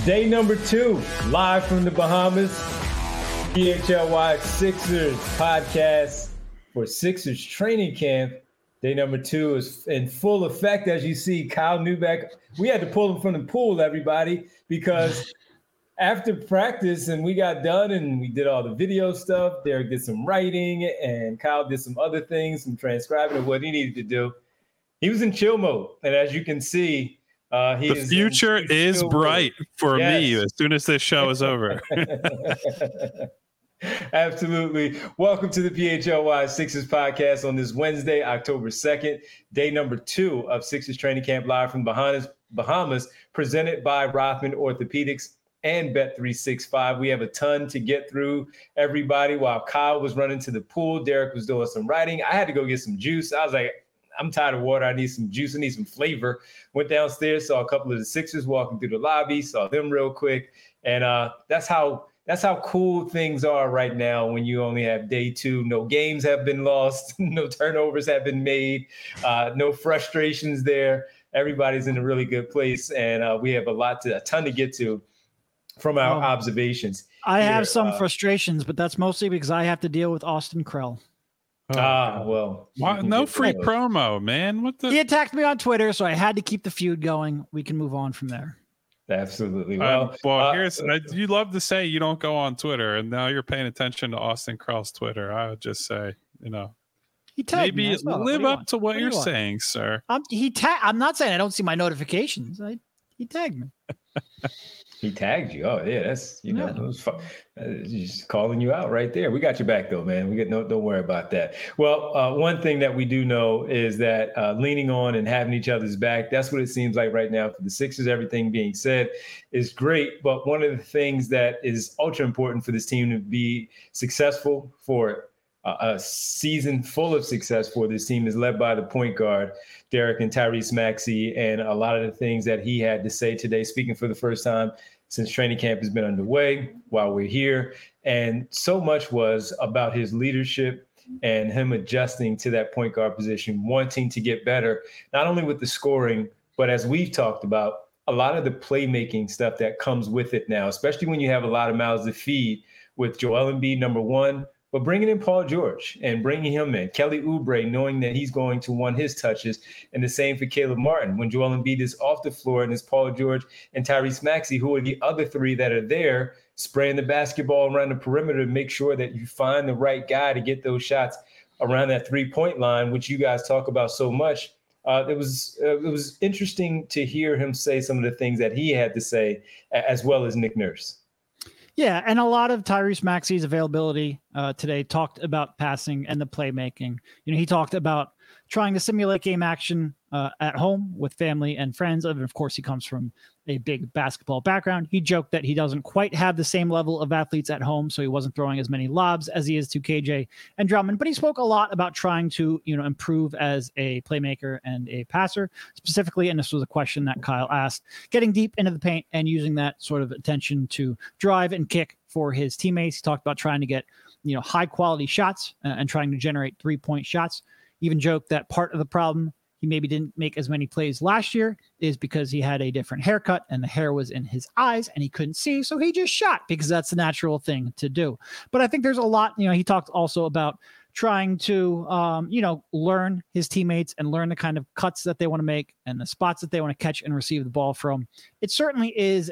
Day number 2, live from the Bahamas. PHLY Sixers podcast for Sixers training camp. Day number 2 is in full effect. As you see, Kyle Neubeck, we had to pull him from the pool, everybody, because after practice and we got done and we did all the video stuff, Derek did some writing and Kyle did some other things, some transcribing of what he needed to do. He was in chill mode. And as you can see, the future is bright for me as soon as this show is over. Absolutely. Welcome to the PHLY Sixers podcast on this Wednesday, October 2nd, day number 2 of Sixers training camp live from Bahamas, presented by Rothman Orthopedics and Bet365. We have a ton to get through, everybody. While Kyle was running to the pool, Derek was doing some writing. I had to go get some juice. I was like, I'm tired of water. I need some juice. I need some flavor. Went downstairs, saw a couple of the Sixers walking through the lobby, saw them real quick. And that's how cool things are right now when you only have day 2. No games have been lost. No turnovers have been made. No frustrations there. Everybody's in a really good place. And we have a ton to get to from our observations. I have some frustrations, but that's mostly because I have to deal with Austin Krell. Well. No free promo, man. What the? He attacked me on Twitter, so I had to keep the feud going. We can move on from there. Absolutely. You love to say you don't go on Twitter, and now you're paying attention to Austin Krell's Twitter. I would just say, he tagged maybe me as well. Live up to what you're saying, sir. I'm not saying I don't see my notifications. He tagged me. He tagged you. Oh yeah, that's it was fun. Just calling you out right there. We got your back though, man. Don't worry about that. Well, one thing that we do know is that leaning on and having each other's back. That's what it seems like right now for the Sixers. Everything being said is great, but one of the things that is ultra important for this team to be successful, for a season full of success for this team, is led by the point guard, Derek and Tyrese Maxey, and a lot of the things that he had to say today, speaking for the first time since training camp has been underway while we're here. And so much was about his leadership and him adjusting to that point guard position, wanting to get better, not only with the scoring, but as we've talked about, a lot of the playmaking stuff that comes with it now, especially when you have a lot of mouths to feed with Joel Embiid, number 1, but bringing in Paul George and bringing him in, Kelly Oubre, knowing that he's going to want his touches, and the same for Caleb Martin. When Joel Embiid is off the floor, and it's Paul George and Tyrese Maxey, who are the other 3 that are there, spraying the basketball around the perimeter to make sure that you find the right guy to get those shots around that 3-point line, which you guys talk about so much. It was interesting to hear him say some of the things that he had to say, as well as Nick Nurse. Yeah, and a lot of Tyrese Maxey's availability today talked about passing and the playmaking. He talked about trying to simulate game action at home with family and friends. And of course, he comes from a big basketball background. He joked that he doesn't quite have the same level of athletes at home, so he wasn't throwing as many lobs as he is to KJ and Drummond. But he spoke a lot about trying to, improve as a playmaker and a passer specifically. And this was a question that Kyle asked, getting deep into the paint and using that sort of attention to drive and kick for his teammates. He talked about trying to get, high quality shots and trying to generate 3-point shots. He even joked that part of the problem he maybe didn't make as many plays last year is because he had a different haircut and the hair was in his eyes and he couldn't see. So he just shot because that's the natural thing to do. But I think there's a lot, he talked also about trying to, learn his teammates and learn the kind of cuts that they want to make and the spots that they want to catch and receive the ball from. It certainly is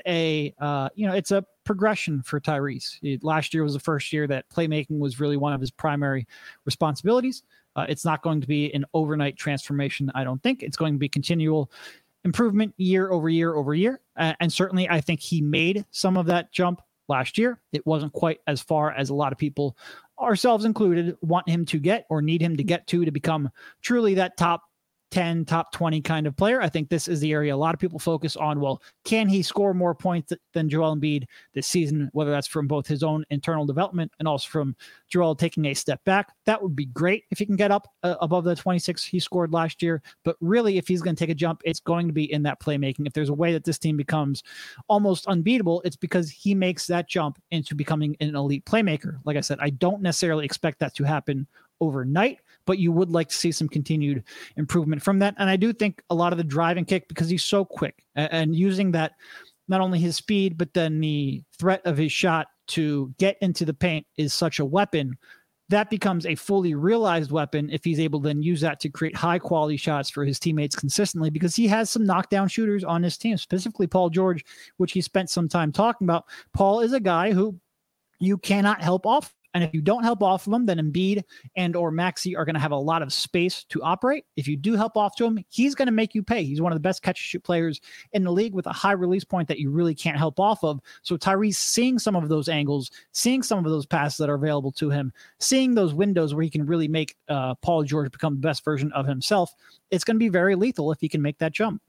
it's a progression for Tyrese. Last year was the first year that playmaking was really one of his primary responsibilities. It's not going to be an overnight transformation, I don't think. It's going to be continual improvement year over year over year. And certainly I think he made some of that jump last year. It wasn't quite as far as a lot of people, ourselves included, want him to get or need him to get to become truly that top 10, top 20 kind of player. I think this is the area a lot of people focus on. Well, can he score more points than Joel Embiid this season, whether that's from both his own internal development and also from Joel taking a step back? That would be great if he can get up above the 26 he scored last year. But really, if he's going to take a jump, it's going to be in that playmaking. If there's a way that this team becomes almost unbeatable, it's because he makes that jump into becoming an elite playmaker. Like I said, I don't necessarily expect that to happen overnight, but you would like to see some continued improvement from that. And I do think a lot of the drive and kick, because he's so quick and using that not only his speed, but then the threat of his shot to get into the paint is such a weapon. That becomes a fully realized weapon if he's able to then use that to create high quality shots for his teammates consistently, because he has some knockdown shooters on his team, specifically Paul George, which he spent some time talking about. Paul is a guy who you cannot help off. And if you don't help off of him, then Embiid and or Maxey are going to have a lot of space to operate. If you do help off to him, he's going to make you pay. He's one of the best catch-and-shoot players in the league with a high release point that you really can't help off of. So Tyrese seeing some of those angles, seeing some of those passes that are available to him, seeing those windows where he can really make Paul George become the best version of himself, it's going to be very lethal if he can make that jump.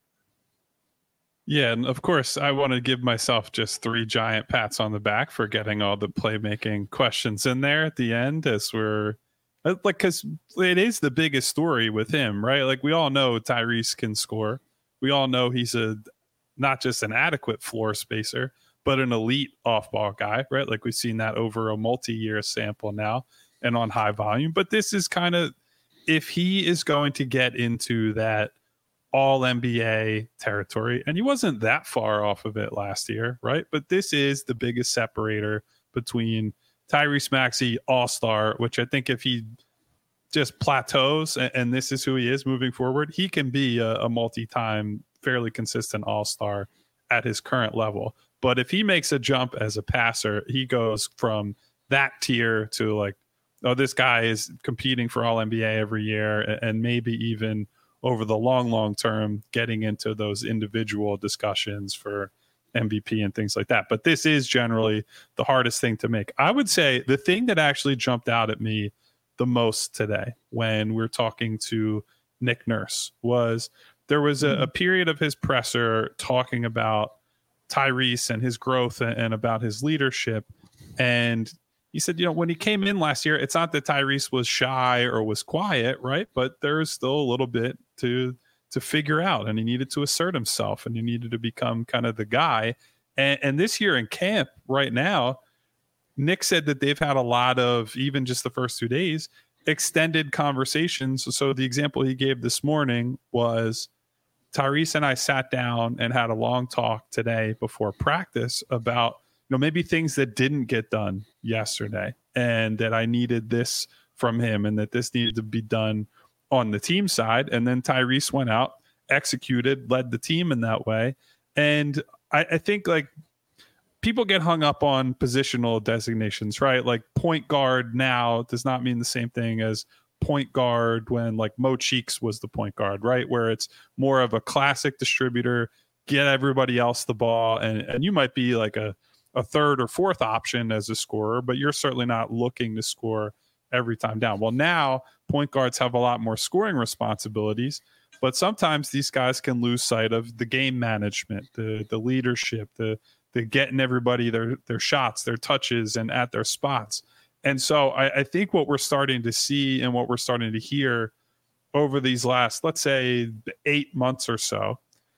Yeah, and of course, I want to give myself just 3 giant pats on the back for getting all the playmaking questions in there at the end, as we're like, because it is the biggest story with him, right? Like, we all know Tyrese can score. We all know he's not just an adequate floor spacer, but an elite off-ball guy, right? Like, we've seen that over a multi-year sample now and on high volume. But this is kind of, if he is going to get into that all NBA territory, and he wasn't that far off of it last year, right? But this is the biggest separator between Tyrese Maxey, all-star, which I think if he just plateaus and this is who he is moving forward, he can be a multi-time, fairly consistent all-star at his current level. But if he makes a jump as a passer, he goes from that tier to like, oh, this guy is competing for all NBA every year, and maybe even over the long term, getting into those individual discussions for MVP and things like that. But this is generally the hardest thing to make. I would say the thing that actually jumped out at me the most today when we're talking to Nick Nurse was there was a period of his presser talking about Tyrese and his growth and about his leadership. And he said, when he came in last year, it's not that Tyrese was shy or was quiet, right? But there's still a little bit to figure out, and he needed to assert himself, and he needed to become kind of the guy. And this year in camp right now, Nick said that they've had a lot of, even just the first 2 days, extended conversations. So the example he gave this morning was Tyrese and I sat down and had a long talk today before practice about maybe things that didn't get done yesterday, and that I needed this from him, and that this needed to be done on the team side. And then Tyrese went out, executed, led the team in that way. And I think like people get hung up on positional designations, right? Like point guard now does not mean the same thing as point guard when like Mo Cheeks was the point guard, right? Where it's more of a classic distributor, get everybody else the ball. And you might be like a third or fourth option as a scorer, but you're certainly not looking to score every time down. Well, now point guards have a lot more scoring responsibilities, but sometimes these guys can lose sight of the game management, the leadership, the getting everybody their shots, their touches, and at their spots. And so I think what we're starting to see and what we're starting to hear over these last, let's say, 8 months or so,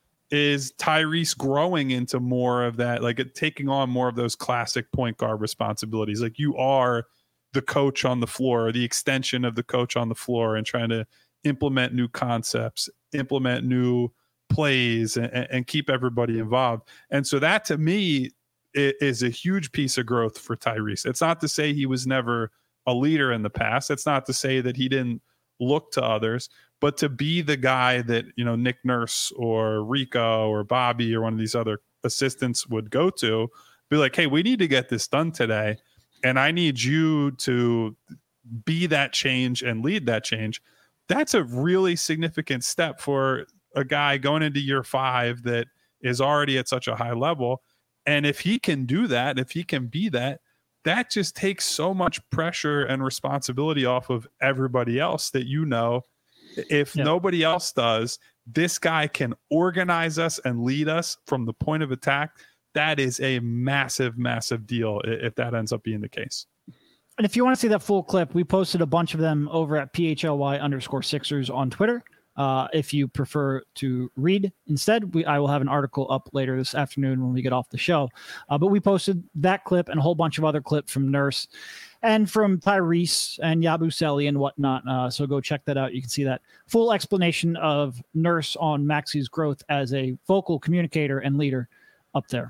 is Tyrese growing into more of that, like taking on more of those classic point guard responsibilities. Like you are the coach on the floor, or the extension of the coach on the floor, and trying to implement new concepts, implement new plays, and keep everybody involved. And so that to me is a huge piece of growth for Tyrese. It's not to say he was never a leader in the past. It's not to say that he didn't look to others, but to be the guy that, Nick Nurse or Rico or Bobby or one of these other assistants would go to, be like, hey, we need to get this done today, and I need you to be that change and lead that change. That's a really significant step for a guy going into year 5 that is already at such a high level. And if he can do that, if he can be that, that just takes so much pressure and responsibility off of everybody else that, if nobody else does, this guy can organize us and lead us from the point of attack. That is a massive, massive deal if that ends up being the case. And if you want to see that full clip, we posted a bunch of them over at PHLY_Sixers on Twitter. If you prefer to read instead, I will have an article up later this afternoon when we get off the show. But we posted that clip and a whole bunch of other clips from Nurse and from Tyrese and Yabusele and whatnot. So go check that out. You can see that full explanation of Nurse on Maxey's growth as a vocal communicator and leader up there.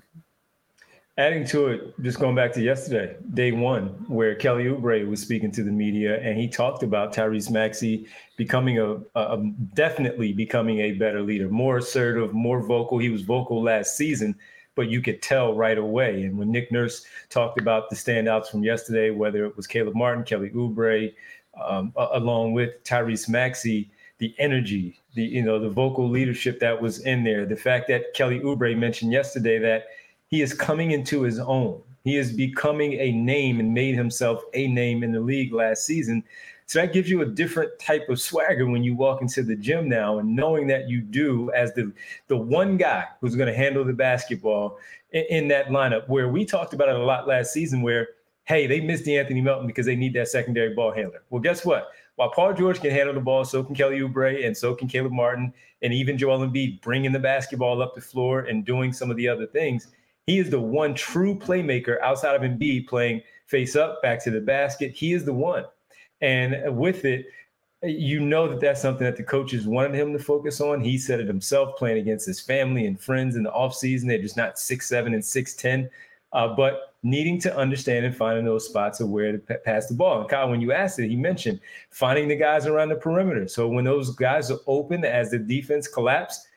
Adding to it, just going back to yesterday, day one, where Kelly Oubre was speaking to the media, and he talked about Tyrese Maxey becoming definitely becoming a better leader, more assertive, more vocal. He was vocal last season, but you could tell right away. And when Nick Nurse talked about the standouts from yesterday, whether it was Caleb Martin, Kelly Oubre, along with Tyrese Maxey, the energy, the vocal leadership that was in there, the fact that Kelly Oubre mentioned yesterday that he is coming into his own. He is becoming a name and made himself a name in the league last season. So that gives you a different type of swagger when you walk into the gym now, and knowing that you do as the one guy who's going to handle the basketball in that lineup, where we talked about it a lot last season where, hey, they missed De'Anthony Melton because they need that secondary ball handler. Well, guess what? While Paul George can handle the ball, so can Kelly Oubre, and so can Caleb Martin, and even Joel Embiid bringing the basketball up the floor and doing some of the other things. He is the one true playmaker outside of Embiid playing face up, back to the basket. He is the one. And with it, you know that that's something that the coaches wanted him to focus on. He said it himself, playing against his family and friends in the offseason. They're just not 6'7" and 6'10", but needing to understand and finding those spots of where to pass the ball. And Kyle, when you asked it, he mentioned finding the guys around the perimeter. So when those guys are open as the defense collapse,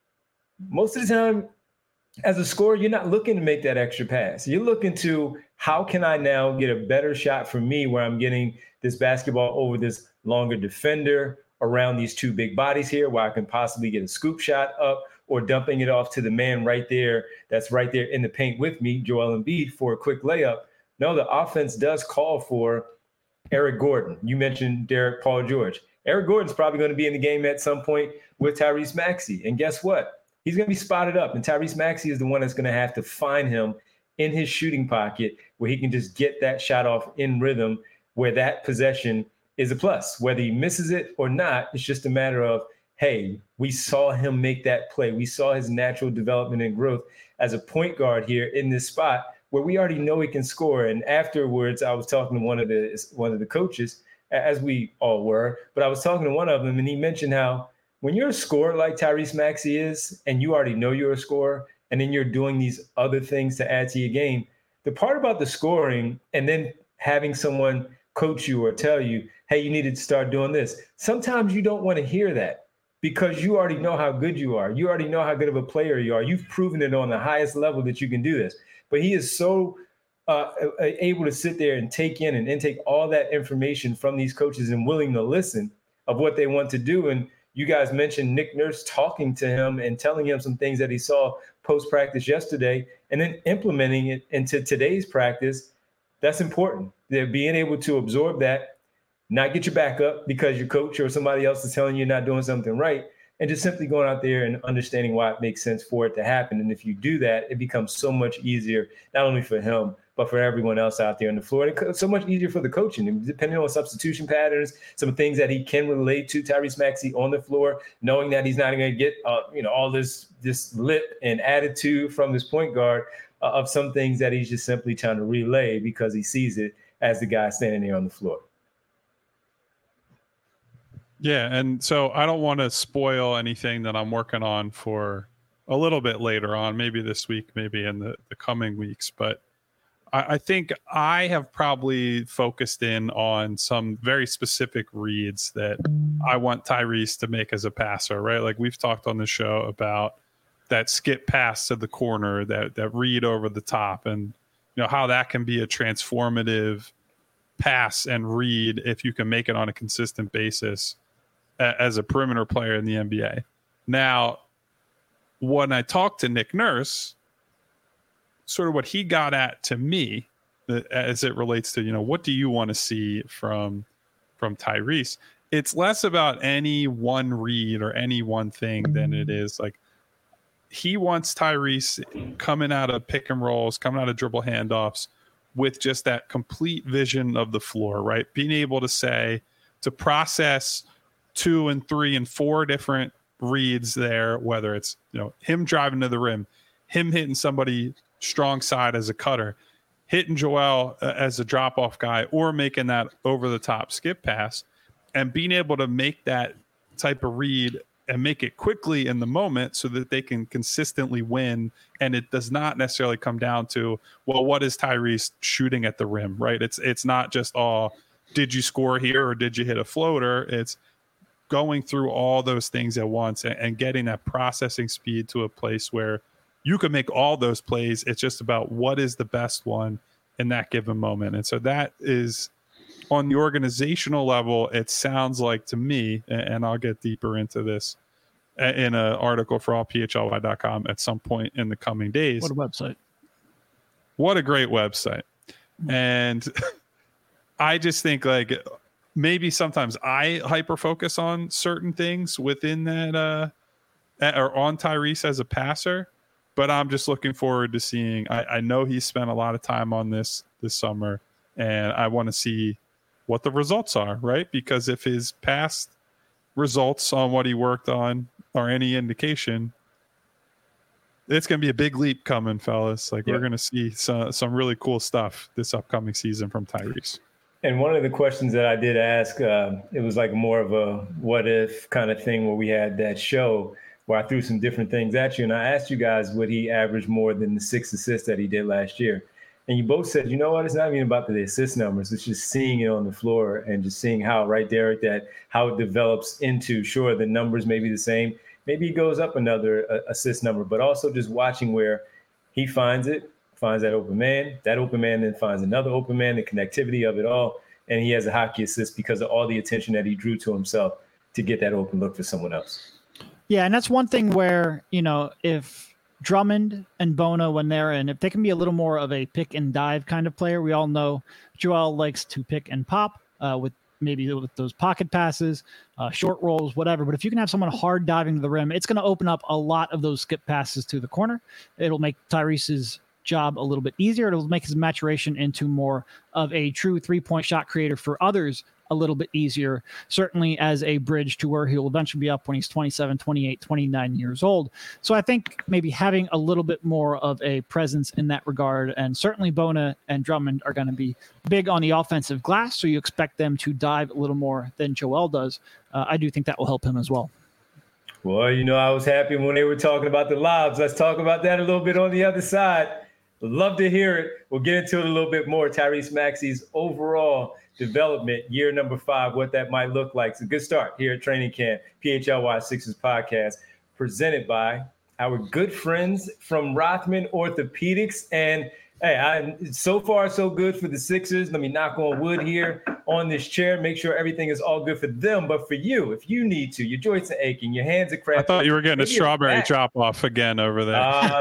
most of the time, as a scorer, you're not looking to make that extra pass. You're looking to, how can I now get a better shot for me where I'm getting this basketball over this longer defender around these two big bodies here, where I can possibly get a scoop shot up, or dumping it off to the man right there that's right there in the paint with me, Joel Embiid, for a quick layup. No, the offense does call for Eric Gordon. You mentioned Derek Paul George. Eric Gordon's probably going to be in the game at some point with Tyrese Maxey. And guess what? He's going to be spotted up, and Tyrese Maxey is the one that's going to have to find him in his shooting pocket where he can just get that shot off in rhythm, where that possession is a plus. Whether he misses it or not, it's just a matter of, hey, we saw him make that play. We saw his natural development and growth as a point guard here in this spot where we already know he can score. And afterwards, I was talking to one of the coaches, as we all were, but I was talking to one of them, and he mentioned how when you're a scorer like Tyrese Maxey is, and you already know you're a scorer, and then you're doing these other things to add to your game, the part about the scoring and then having someone coach you or tell you, hey, you need to start doing this. Sometimes you don't want to hear that because you already know how good you are. You already know how good of a player you are. You've proven it on the highest level that you can do this. But he is so able to sit there and take in and intake all that information from these coaches and willing to listen of what they want to do. And you guys mentioned Nick Nurse talking to him and telling him some things that he saw post-practice yesterday, and then implementing it into today's practice. That's important. They're being able to absorb that, not get your back up because your coach or somebody else is telling you you're not doing something right, and just simply going out there and understanding why it makes sense for it to happen. And if you do that, it becomes so much easier, not only for him, but for everyone else out there on the floor. And it's so much easier for the coaching, depending on substitution patterns, some things that he can relate to Tyrese Maxey on the floor, knowing that he's not going to get, all this lip and attitude from this point guard of some things that he's just simply trying to relay because he sees it as the guy standing there on the floor. Yeah, and so I don't want to spoil anything that I'm working on for a little bit later on, maybe this week, maybe in the coming weeks, but I think I have probably focused in on some very specific reads that I want Tyrese to make as a passer, right? Like we've talked on the show about that skip pass to the corner, that read over the top, and how that can be a transformative pass and read if you can make it on a consistent basis as a perimeter player in the NBA. Now, when I talked to Nick Nurse, sort of what he got at to me as it relates to, what do you want to see from Tyrese? It's less about any one read or any one thing than it is like he wants Tyrese coming out of pick and rolls, coming out of dribble handoffs with just that complete vision of the floor, right? Being able to process 2 and 3 and 4 different reads there, whether it's, him driving to the rim, him hitting somebody strong side as a cutter, hitting Joel as a drop-off guy, or making that over-the-top skip pass, and being able to make that type of read and make it quickly in the moment so that they can consistently win. And it does not necessarily come down to, well, what is Tyrese shooting at the rim, right? It's not just, did you score here or did you hit a floater? It's going through all those things at once and getting that processing speed to a place where you can make all those plays. It's just about what is the best one in that given moment. And so that is on the organizational level, it sounds like to me, and I'll get deeper into this in an article for allphly.com at some point in the coming days. What a website. What a great website. And I just think like maybe sometimes I hyper focus on certain things within that or on Tyrese as a passer, but I'm just looking forward to seeing. I know he spent a lot of time on this summer, and I want to see what the results are, right? Because if his past results on what he worked on are any indication, it's going to be a big leap coming, fellas. Like we're going to see some really cool stuff this upcoming season from Tyrese. And one of the questions that I did ask, it was like more of a what if kind of thing where we had that show where I threw some different things at you. And I asked you guys, would he average more than the 6 assists that he did last year? And you both said, you know what, it's not even about the assist numbers. It's just seeing it on the floor and just seeing how, right, Derek, that how it develops into, sure, the numbers may be the same. Maybe he goes up another assist number, but also just watching where he finds that open man then finds another open man, the connectivity of it all. And he has a hockey assist because of all the attention that he drew to himself to get that open look for someone else. Yeah, and that's one thing where, if Drummond and Bona, when they're in, if they can be a little more of a pick and dive kind of player, we all know Joel likes to pick and pop with those pocket passes, short rolls, whatever. But if you can have someone hard diving to the rim, it's going to open up a lot of those skip passes to the corner. It'll make Tyrese's job a little bit easier. It'll make his maturation into more of a true 3-point shot creator for others a little bit easier, certainly as a bridge to where he'll eventually be up when he's 27, 28, 29 years old. So I think maybe having a little bit more of a presence in that regard, and certainly Bona and Drummond are going to be big on the offensive glass, so you expect them to dive a little more than Joel does. I do think that will help him as well. Well, I was happy when they were talking about the lobs. Let's talk about that a little bit on the other side. Love to hear it. We'll get into it a little bit more. Tyrese Maxey's overall development, year number 5, what that might look like. It's a good start here at Training Camp, PHLY Sixers podcast, presented by our good friends from Rothman Orthopedics. And hey, so far so good for the Sixers. Let me knock on wood here on this chair, make sure everything is all good for them. But for you, if you need to, your joints are aching, your hands are cramping. I thought you were getting a strawberry chop off again over there.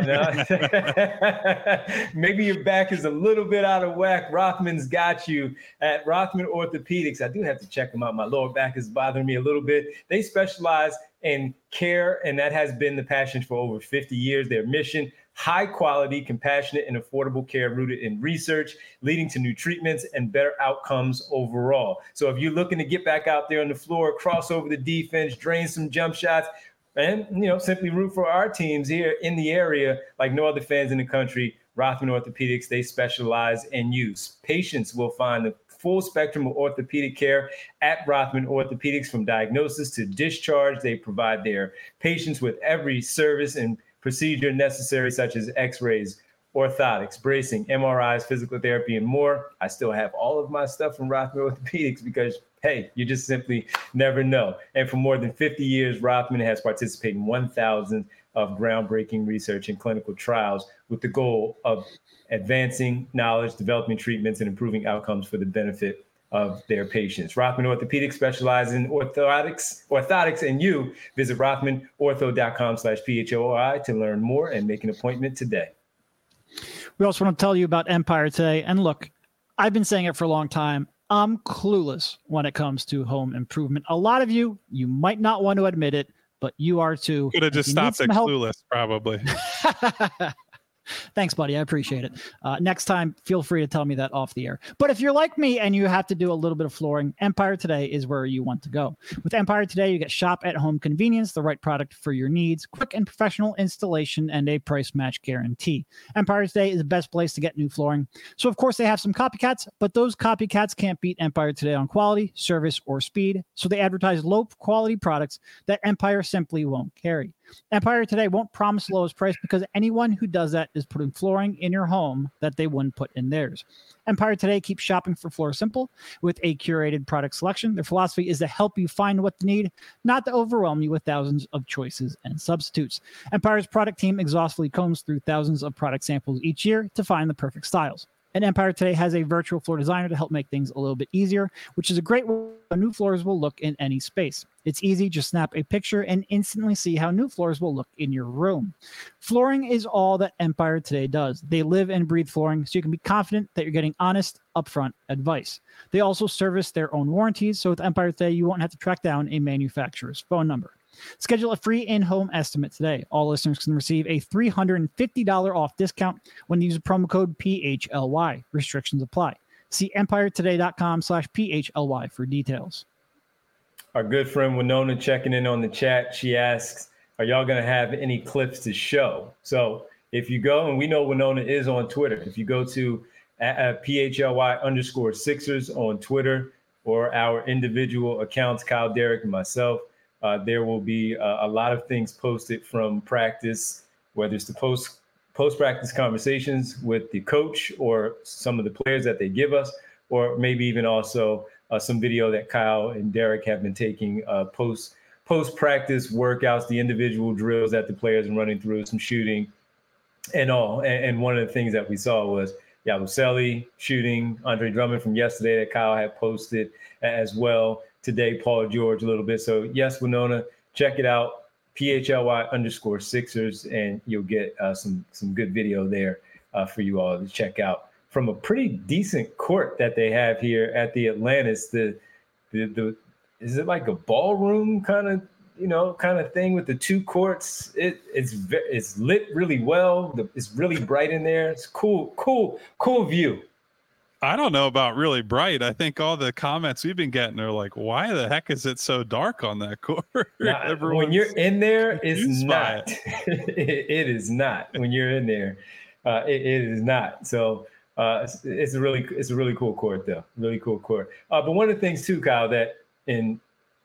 No. Maybe your back is a little bit out of whack. Rothman's got you at Rothman Orthopedics. I do have to check them out. My lower back is bothering me a little bit. They specialize in care, and that has been the passion for over 50 years. Their mission: high quality, compassionate, and affordable care rooted in research, leading to new treatments and better outcomes overall. So if you're looking to get back out there on the floor, cross over the defense, drain some jump shots, and simply root for our teams here in the area like no other fans in the country, Rothman Orthopedics, they specialize in use. Patients will find the full spectrum of orthopedic care at Rothman Orthopedics, from diagnosis to discharge. They provide their patients with every service and procedure necessary, such as x-rays, orthotics, bracing, MRIs, physical therapy, and more. I still have all of my stuff from Rothman Orthopedics because, hey, you just simply never know. And for more than 50 years, Rothman has participated in 1,000 of groundbreaking research and clinical trials with the goal of advancing knowledge, developing treatments, and improving outcomes for the benefit of their patients. Rothman Orthopedics specializes in orthotics, and you visit rothmanortho.com/PHOI to learn more and make an appointment today. We also want to tell you about Empire today. And look, I've been saying it for a long time. I'm clueless when it comes to home improvement. A lot of you might not want to admit it, but you are too. Could have just stopped at clueless, probably. Thanks, buddy. I appreciate it. Next time, feel free to tell me that off the air. But if you're like me and you have to do a little bit of flooring, Empire Today is where you want to go. With Empire Today, you get shop-at-home convenience, the right product for your needs, quick and professional installation, and a price match guarantee. Empire Today is the best place to get new flooring. So, of course, they have some copycats, but those copycats can't beat Empire Today on quality, service, or speed. So they advertise low-quality products that Empire simply won't carry. Empire Today won't promise the lowest price because anyone who does that is putting flooring in your home that they wouldn't put in theirs. Empire Today keeps shopping for floor simple with a curated product selection. Their philosophy is to help you find what you need, not to overwhelm you with thousands of choices and substitutes. Empire's product team exhaustively combs through thousands of product samples each year to find the perfect styles. And Empire Today has a virtual floor designer to help make things a little bit easier, which is a great way new floors will look in any space. It's easy, just snap a picture and instantly see how new floors will look in your room. Flooring is all that Empire Today does. They live and breathe flooring, so you can be confident that you're getting honest, upfront advice. They also service their own warranties, so with Empire Today, you won't have to track down a manufacturer's phone number. Schedule a free in-home estimate today. All listeners can receive a $350 off discount when you use promo code PHLY. Restrictions apply. See empiretoday.com/PHLY for details. Our good friend Winona checking in on the chat. She asks, are y'all going to have any clips to show? So if you go, and we know Winona is on Twitter, if you go to PHLY_Sixers on Twitter or our individual accounts, Kyle, Derek, and myself, there will be a lot of things posted from practice, whether it's the post-practice conversations with the coach or some of the players that they give us, or maybe even also some video that Kyle and Derek have been taking post-practice workouts, the individual drills that the players are running through, some shooting and all. And one of the things that we saw was Yabusele shooting, Andre Drummond from yesterday that Kyle had posted as well. Today, Paul George a little bit. So yes, Winona, check it out, PHLY_Sixers, and you'll get some good video there for you all to check out from a pretty decent court that they have here at the Atlantis. The is it like a ballroom kind of thing with the two courts? It's lit really well. It's really bright in there. It's cool view. I don't know about really bright. I think all the comments we've been getting are like, why the heck is it so dark on that court? When you're in there, it's not. It is not. When you're in there, it is not. So it's a really cool court, though. Really cool court. But one of the things too, Kyle, that Derek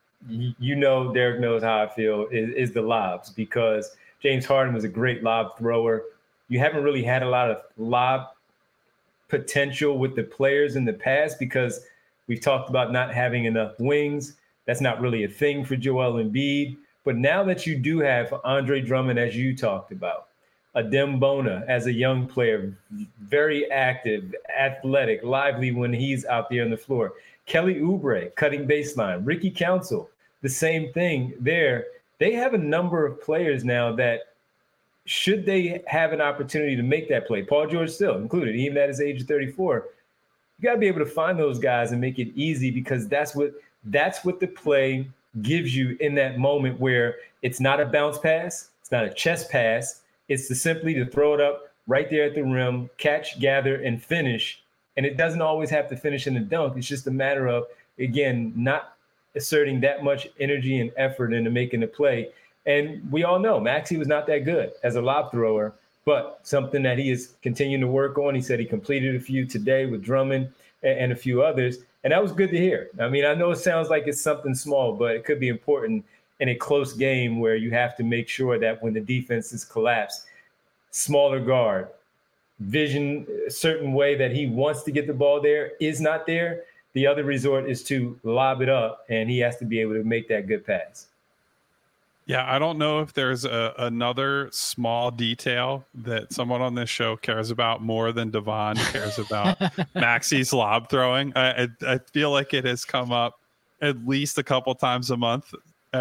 knows how I feel is the lobs, because James Harden was a great lob thrower. You haven't really had a lot of lob potential with the players in the past because we've talked about not having enough wings. That's not really a thing for Joel Embiid. But now that you do have Andre Drummond, as you talked about, Adem Bona as a young player, very active, athletic, lively when he's out there on the floor. Kelly Oubre cutting baseline. Ricky Council, the same thing there. They have a number of players now that, should they have an opportunity to make that play, Paul George still included, even at his age of 34, you got to be able to find those guys and make it easy, because that's what the play gives you in that moment where it's not a bounce pass, it's not a chest pass, it's simply to throw it up right there at the rim, catch, gather, and finish. And it doesn't always have to finish in a dunk. It's just a matter of, again, not asserting that much energy and effort into making the play. And we all know Maxey was not that good as a lob thrower, but something that he is continuing to work on. He said he completed a few today with Drummond and a few others, and that was good to hear. I mean, I know it sounds like it's something small, but it could be important in a close game where you have to make sure that when the defense is collapsed, smaller guard, vision a certain way that he wants to get the ball there is not there. The other resort is to lob it up, and he has to be able to make that good pass. Yeah, I don't know if there's another small detail that someone on this show cares about more than Devon cares about Maxey's lob throwing. I feel like it has come up at least a couple times a month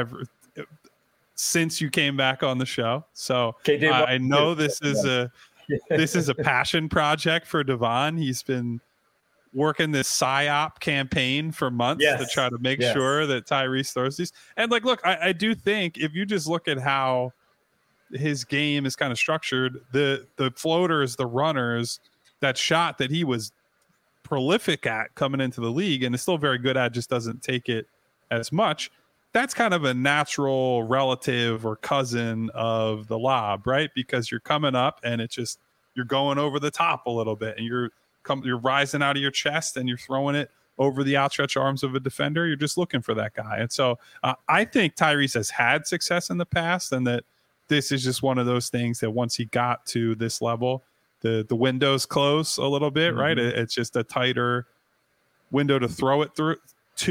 since you came back on the show. So I know this is a passion project for Devon. He's been working this PSYOP campaign for months to try to make sure that Tyrese throws these. And look, I do think if you just look at how his game is kind of structured, the floaters, the runners, that shot that he was prolific at coming into the league and is still very good at, just doesn't take it as much. That's kind of a natural relative or cousin of the lob, right? Because you're coming up and it's just, you're going over the top a little bit and you're rising out of your chest and you're throwing it over the outstretched arms of a defender. You're just looking for that guy. And so I think Tyrese has had success in the past, and that this is just one of those things that once he got to this level, the windows close a little bit, right? It's just a tighter window to throw it through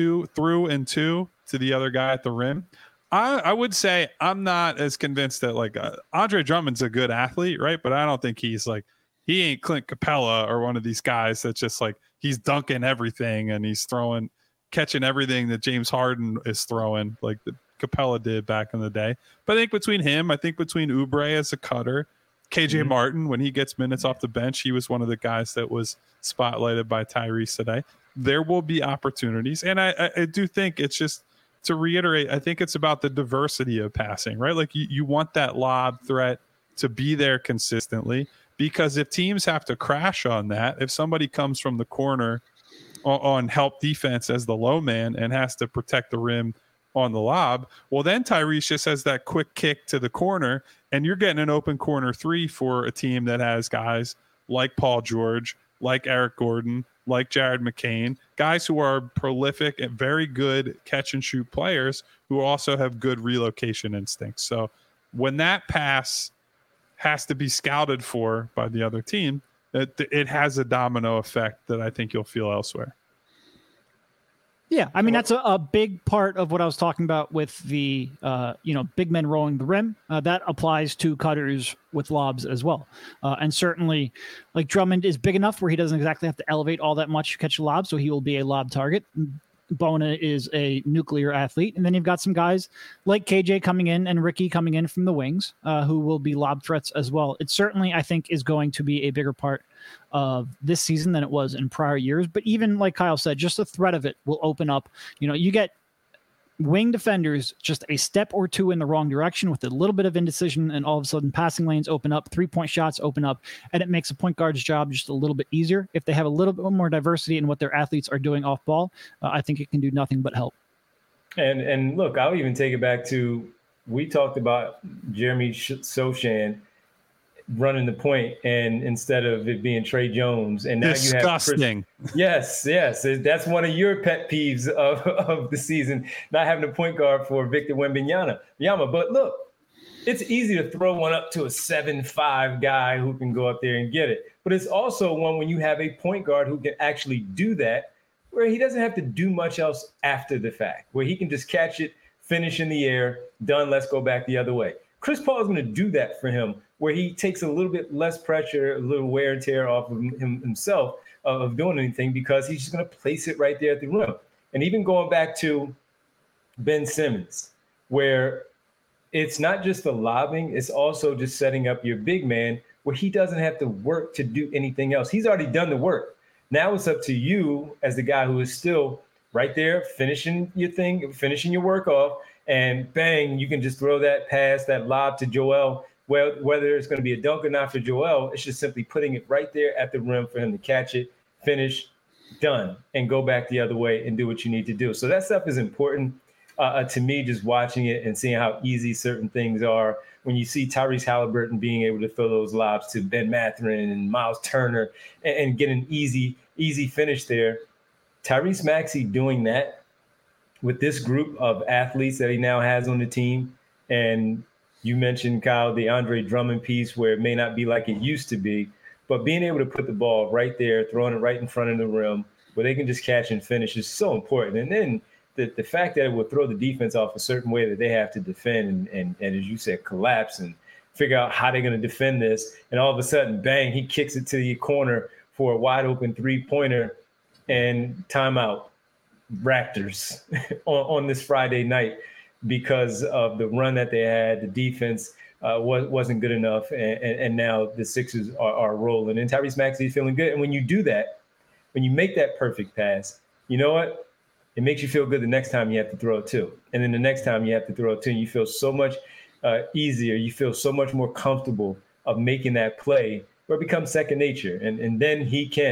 to the other guy at the rim. I would say I'm not as convinced that like Andre Drummond's a good athlete, right? But I don't think he ain't Clint Capella or one of these guys that's just like he's dunking everything and he's catching everything that James Harden is throwing, like the Capella did back in the day. But I think between Oubre as a cutter, KJ Martin, when he gets minutes off the bench, he was one of the guys that was spotlighted by Tyrese today. There will be opportunities. And I do think it's just, to reiterate, I think it's about the diversity of passing, right? Like you want that lob threat to be there consistently, because if teams have to crash on that, if somebody comes from the corner on help defense as the low man and has to protect the rim on the lob, well, then Tyrese just has that quick kick to the corner and you're getting an open corner three for a team that has guys like Paul George, like Eric Gordon, like Jared McCain, guys who are prolific and very good catch and shoot players who also have good relocation instincts. So when that pass has to be scouted for by the other team, it has a domino effect that I think you'll feel elsewhere. Yeah, I mean, that's a big part of what I was talking about with the, big men rolling the rim. That applies to cutters with lobs as well. And certainly, like Drummond is big enough where he doesn't exactly have to elevate all that much to catch a lob, so he will be a lob target. Bona is a nuclear athlete. And then you've got some guys like KJ coming in and Ricky coming in from the wings who will be lob threats as well. It certainly, I think, is going to be a bigger part of this season than it was in prior years. But even like Kyle said, just the threat of it will open up. You get wing defenders just a step or two in the wrong direction with a little bit of indecision, and all of a sudden passing lanes open up, 3-point shots open up, and it makes a point guard's job just a little bit easier. If they have a little bit more diversity in what their athletes are doing off ball, I think it can do nothing but help. And look, I'll even take it back to, we talked about Jeremy Sochan running the point, and instead of it being Trey Jones, and now disgusting. You have yes, that's one of your pet peeves of the season, not having a point guard for Victor Wembanyama. But look, it's easy to throw one up to a 7'5" guy who can go up there and get it. But it's also one when you have a point guard who can actually do that, where he doesn't have to do much else after the fact, where he can just catch it, finish in the air, done, let's go back the other way. Chris Paul is going to do that for him, where he takes a little bit less pressure, a little wear and tear off of himself of doing anything, because he's just going to place it right there at the rim. And even going back to Ben Simmons, where it's not just the lobbing, it's also just setting up your big man where he doesn't have to work to do anything else. He's already done the work. Now it's up to you as the guy who is still right there, finishing your thing, finishing your work off, and bang, you can just throw that pass, that lob to Joel. Well, whether it's going to be a dunk or not for Joel, it's just simply putting it right there at the rim for him to catch it, finish, done, and go back the other way and do what you need to do. So that stuff is important to me, just watching it and seeing how easy certain things are. When you see Tyrese Halliburton being able to throw those lobs to Ben Mathurin and Miles Turner and get an easy finish there, Tyrese Maxey doing that with this group of athletes that he now has on the team. And you mentioned, Kyle, the Andre Drummond piece, where it may not be like it used to be, but being able to put the ball right there, throwing it right in front of the rim, where they can just catch and finish is so important. And then the fact that it will throw the defense off a certain way that they have to defend and as you said, collapse and figure out how they're going to defend this. And all of a sudden, bang, he kicks it to the corner for a wide open 3-pointer, and timeout. Raptors on this Friday night, because of the run that they had. The defense wasn't good enough, and now the Sixers are rolling. And Tyrese Maxey is feeling good. And when you do that, when you make that perfect pass, you know what? It makes you feel good the next time you have to throw it too. And then the next time you have to throw it too, and you feel so much easier. You feel so much more comfortable of making that play where it becomes second nature. And then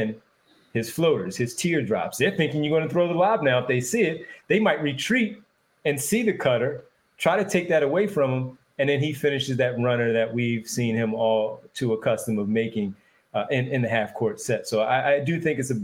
his floaters, his teardrops, they're thinking you're going to throw the lob now. If they see it, they might retreat and see the cutter, try to take that away from him. And then he finishes that runner that we've seen him all too accustomed of making in the half court set. So I do think it's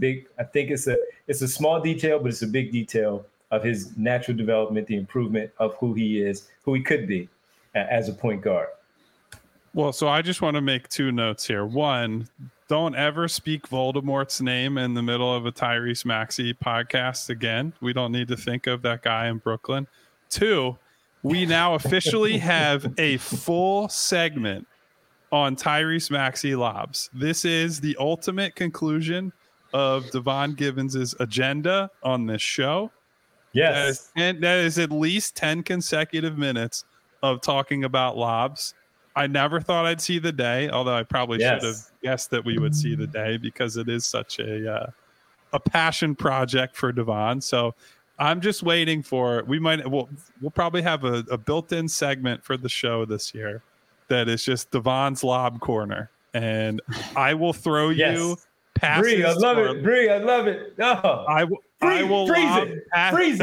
it's a small detail, but it's a big detail of his natural development, the improvement of who he is, who he could be as a point guard. Well, so I just want to make two notes here. One, don't ever speak Voldemort's name in the middle of a Tyrese Maxey podcast again. We don't need to think of that guy in Brooklyn. Two, we now officially have a full segment on Tyrese Maxey lobs. This is the ultimate conclusion of Devon Givens' agenda on this show. Yes. And that is at least 10 consecutive minutes of talking about lobs. I never thought I'd see the day, although I probably should have guessed that we would see the day because it is such a passion project for Devon. So I'm just waiting for we'll probably have a built-in segment for the show this year that is just Devon's Lob Corner, and I will throw you passes. Bree, I love it. Bree, I love it. Oh. I will freeze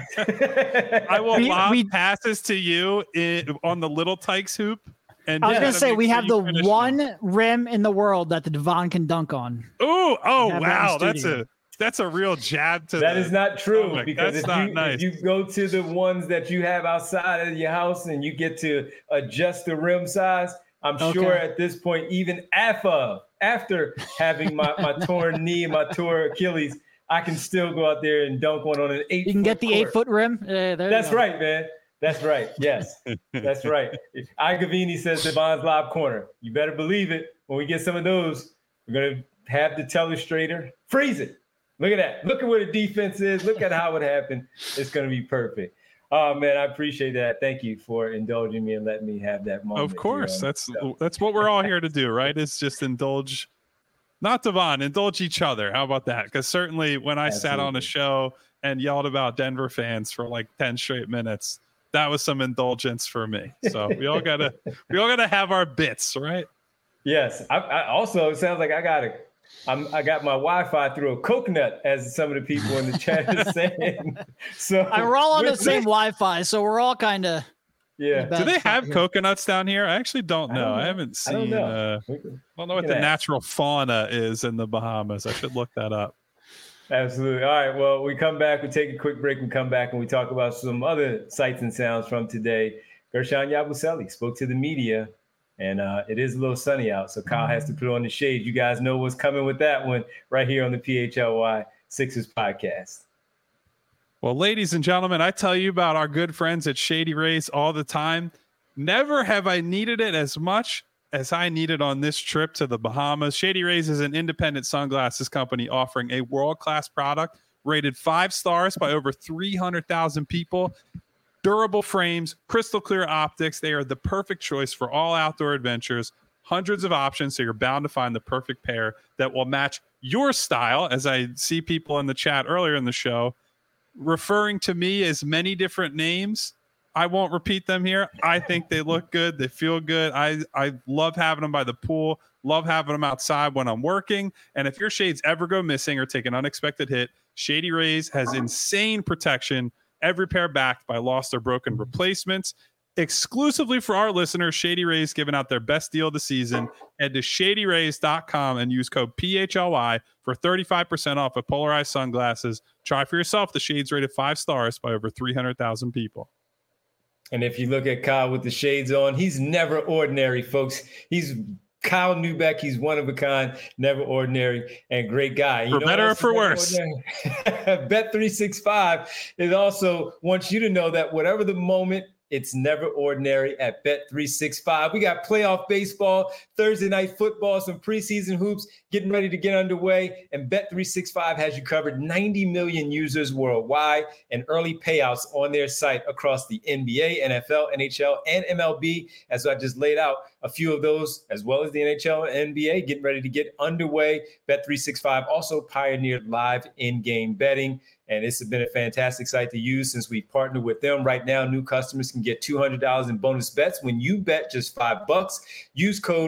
it. I will lob passes to you on the Little Tykes hoop. And I was going to say, we have the one rim in the world that the Devon can dunk on. Oh, wow. That's a real jab to that. Is not true, because if you go to the ones that you have outside of your house and you get to adjust the rim size, I'm sure at this point, even after having my torn knee and my torn Achilles, I can still go out there and dunk one on an 8-foot. You can get the court. 8-foot rim. That's right, man. That's right. Yes, that's right. Igavini says Devon's Lob Corner. You better believe it. When we get some of those, we're going to have the telestrator freeze it. Look at that. Look at where the defense is. Look at how it happened. It's going to be perfect. Oh, man, I appreciate that. Thank you for indulging me and letting me have that moment. Of course. That's what we're all here to do, right? It's just indulge, not Devon, indulge each other. How about that? Because certainly when I sat on a show and yelled about Denver fans for like 10 straight minutes, that was some indulgence for me. So we all gotta have our bits, right? Yes. I also, it sounds like I got my Wi-Fi through a coconut, as some of the people in the chat are saying. So we're all on the same Wi-Fi, so we're all kind of. Yeah. Do they have coconuts down here? I actually don't know. I haven't seen. I don't know what the natural fauna is in the Bahamas. I should look that up. Absolutely. All right. Well, we come back. We take a quick break and come back and we talk about some other sights and sounds from today. Guerschon Yabusele spoke to the media, and it is a little sunny out, so Kyle has to put on the shades. You guys know what's coming with that one right here on the PHLY Sixers podcast. Well, ladies and gentlemen, I tell you about our good friends at Shady Rays all the time. Never have I needed it as much as I needed on this trip to the Bahamas. Shady Rays is an independent sunglasses company offering a world-class product rated 5 stars by over 300,000 people. Durable frames, crystal clear optics. They are the perfect choice for all outdoor adventures. Hundreds of options, so you're bound to find the perfect pair that will match your style. As I see people in the chat earlier in the show referring to me as many different names, I won't repeat them here. I think they look good. They feel good. I love having them by the pool, love having them outside when I'm working. And if your shades ever go missing or take an unexpected hit, Shady Rays has insane protection. Every pair backed by lost or broken replacements. Exclusively for our listeners, Shady Rays giving out their best deal of the season. Head to shadyrays.com and use code PHLY for 35% off of polarized sunglasses. Try for yourself the shades rated 5 stars by over 300,000 people. And if you look at Kyle with the shades on, he's never ordinary, folks. He's Kyle Neubeck. He's one of a kind, never ordinary, and great guy. You for better or for worse. Bet365 is also wants you to know that whatever the moment, it's never ordinary at Bet365. We got playoff baseball, Thursday night football, some preseason hoops getting ready to get underway. And Bet365 has you covered. 90 million users worldwide and early payouts on their site across the NBA, NFL, NHL, and MLB. As I just laid out, a few of those, as well as the NHL and NBA, getting ready to get underway. Bet365 also pioneered live in-game betting, and it's been a fantastic site to use since we partnered with them. Right now, new customers can get $200 in bonus bets when you bet just $5. Use code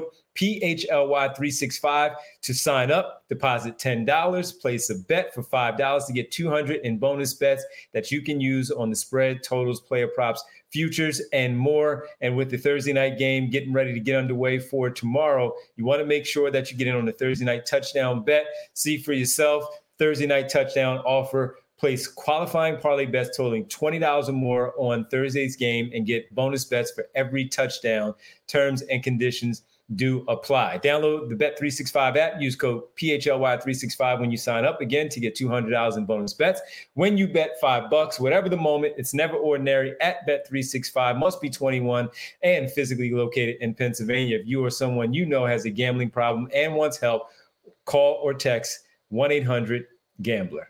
PHLY365 to sign up. Deposit $10, place a bet for $5 to get $200 in bonus bets that you can use on the spread, totals, player props, futures, and more. And with the Thursday night game getting ready to get underway for tomorrow, you want to make sure that you get in on the Thursday night touchdown bet. See for yourself. Thursday night touchdown offer. Place qualifying parlay bets totaling $20 or more on Thursday's game and get bonus bets for every touchdown. Terms and conditions do apply. Download the Bet365 app. Use code PHLY365 when you sign up again to get $200 in bonus bets. When you bet $5, whatever the moment, it's never ordinary at Bet365. Must be 21 and physically located in Pennsylvania. If you or someone you know has a gambling problem and wants help, call or text 1-800-GAMBLER.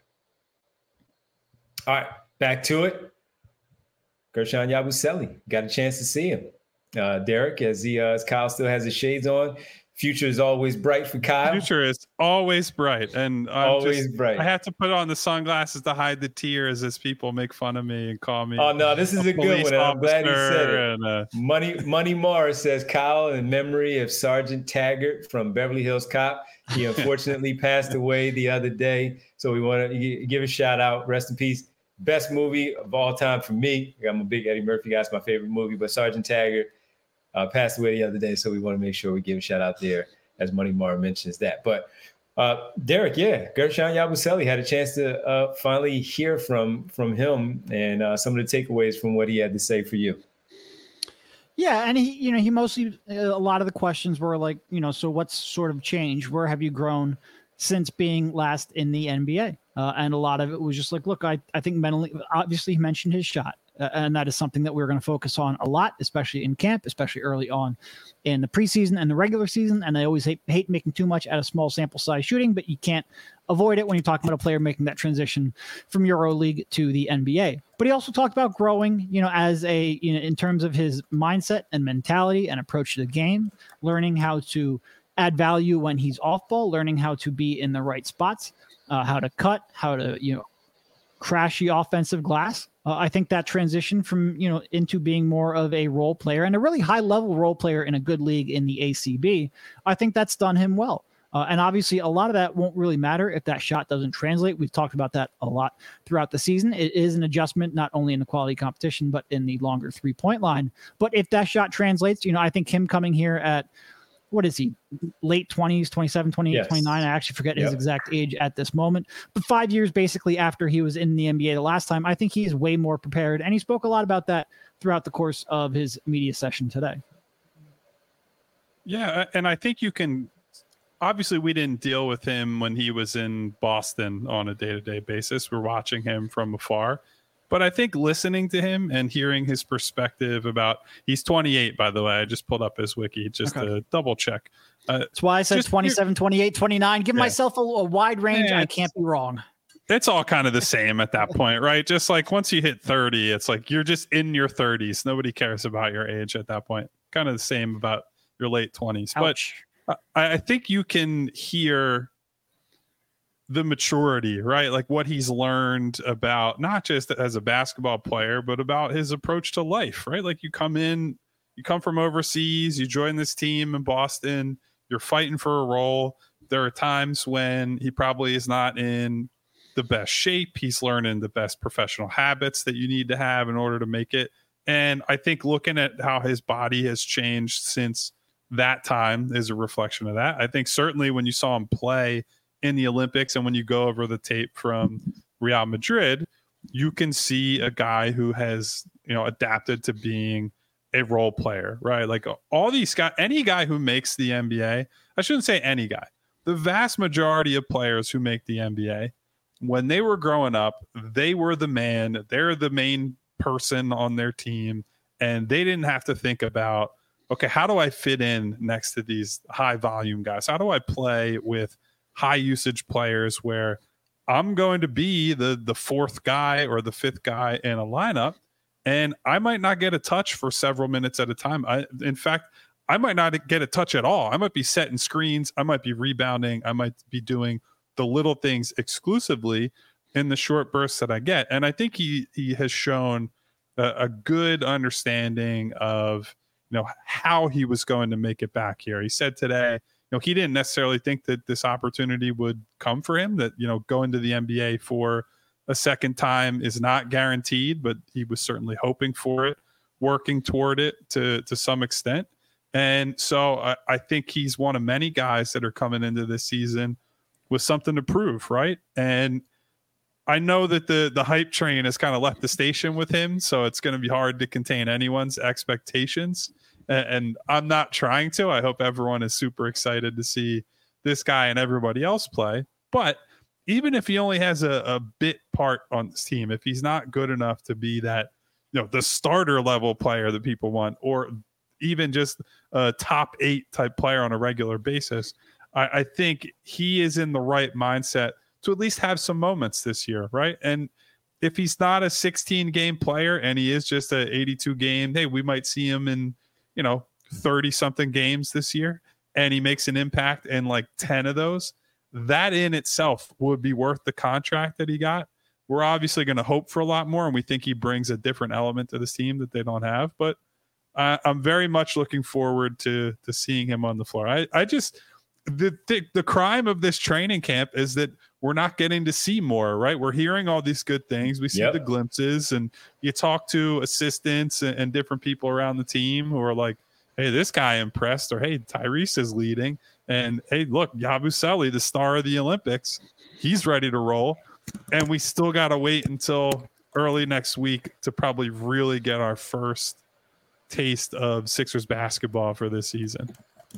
All right, back to it. Guerschon Yabusele, got a chance to see him. Derek, as Kyle still has his shades on, future is always bright for Kyle. Future is always bright, and bright. I have to put on the sunglasses to hide the tears as people make fun of me and call me. Oh no, this is a good one. I'm glad he said it. And, Money Morris says Kyle in memory of Sergeant Taggart from Beverly Hills Cop. He unfortunately passed away the other day, so we want to give a shout out. Rest in peace. Best movie of all time for me. I'm a big Eddie Murphy guy. It's my favorite movie, but Sergeant Taggart passed away the other day, so we want to make sure we give a shout out there as Money Mara mentions that. But Derek, Guerschon Yabusele had a chance to finally hear from him and some of the takeaways from what he had to say for you. Yeah, and he mostly, a lot of the questions were like, so what's sort of changed? Where have you grown since being last in the NBA? And a lot of it was just like, look, I think mentally, obviously he mentioned his shot. And that is something that we're going to focus on a lot, especially in camp, especially early on in the preseason and the regular season. And I always hate making too much out of small sample size shooting, but you can't avoid it when you're talking about a player making that transition from EuroLeague to the NBA. But he also talked about growing, as in terms of his mindset and mentality and approach to the game, learning how to add value when he's off ball, learning how to be in the right spots, how to cut, how to, crash the offensive glass. I think that transition from, into being more of a role player and a really high level role player in a good league in the ACB, I think that's done him well. And obviously a lot of that won't really matter if that shot doesn't translate. We've talked about that a lot throughout the season. It is an adjustment, not only in the quality competition, but in the longer 3-point line. But if that shot translates, I think him coming here at, what is he, late 20s, 27, 28, yes. 29. I actually forget his exact age at this moment. But 5 years basically after he was in the NBA the last time, I think he is way more prepared. And he spoke a lot about that throughout the course of his media session today. Yeah, and I think you can – obviously we didn't deal with him when he was in Boston on a day-to-day basis. We're watching him from afar. But I think listening to him and hearing his perspective about, he's 28, by the way. I just pulled up his wiki just to double check. That's why I said 27, 28, 29. Give myself a wide range. I can't be wrong. It's all kind of the same at that point, right? Just like once you hit 30, it's like you're just in your 30s. Nobody cares about your age at that point. Kind of the same about your late 20s. Ouch. But I think you can hear the maturity, right? Like what he's learned about not just as a basketball player, but about his approach to life, right? Like you come from overseas, you join this team in Boston, you're fighting for a role. There are times when he probably is not in the best shape. He's learning the best professional habits that you need to have in order to make it. And I think looking at how his body has changed since that time is a reflection of that. I think certainly when you saw him play in the Olympics and when you go over the tape from Real Madrid, you can see a guy who has, adapted to being a role player, right? Like all these guys, any guy who makes the NBA, I shouldn't say any guy, the vast majority of players who make the NBA, when they were growing up, they were the man, they're the main person on their team. And they didn't have to think about, okay, how do I fit in next to these high volume guys? How do I play with high usage players where I'm going to be the fourth guy or the fifth guy in a lineup, and I might not get a touch for several minutes at a time. In fact, I might not get a touch at all. I might be setting screens. I might be rebounding. I might be doing the little things exclusively in the short bursts that I get. And I think he has shown a good understanding of, how he was going to make it back here. He said today, he didn't necessarily think that this opportunity would come for him, that, going to the NBA for a second time is not guaranteed, but he was certainly hoping for it, working toward it to some extent. And so I think he's one of many guys that are coming into this season with something to prove, right? And I know that the hype train has kind of left the station with him, so it's going to be hard to contain anyone's expectations. And I'm not trying to. I hope everyone is super excited to see this guy and everybody else play. But even if he only has a bit part on this team, if he's not good enough to be that, the starter level player that people want, or even just a top 8 type player on a regular basis, I think he is in the right mindset to at least have some moments this year, right? And if he's not a 16 game player and he is just a 82 game, hey, we might see him in 30 something games this year, and he makes an impact in like 10 of those. That in itself would be worth the contract that he got. We're obviously going to hope for a lot more, and we think he brings a different element to this team that they don't have. But I'm very much looking forward to seeing him on the floor. I just the crime of this training camp is that we're not getting to see more, right? We're hearing all these good things. We see the glimpses, and you talk to assistants and different people around the team who are like, hey, this guy impressed, or hey, Tyrese is leading. And hey, look, Yabusele, the star of the Olympics, he's ready to roll. And we still got to wait until early next week to probably really get our first taste of Sixers basketball for this season.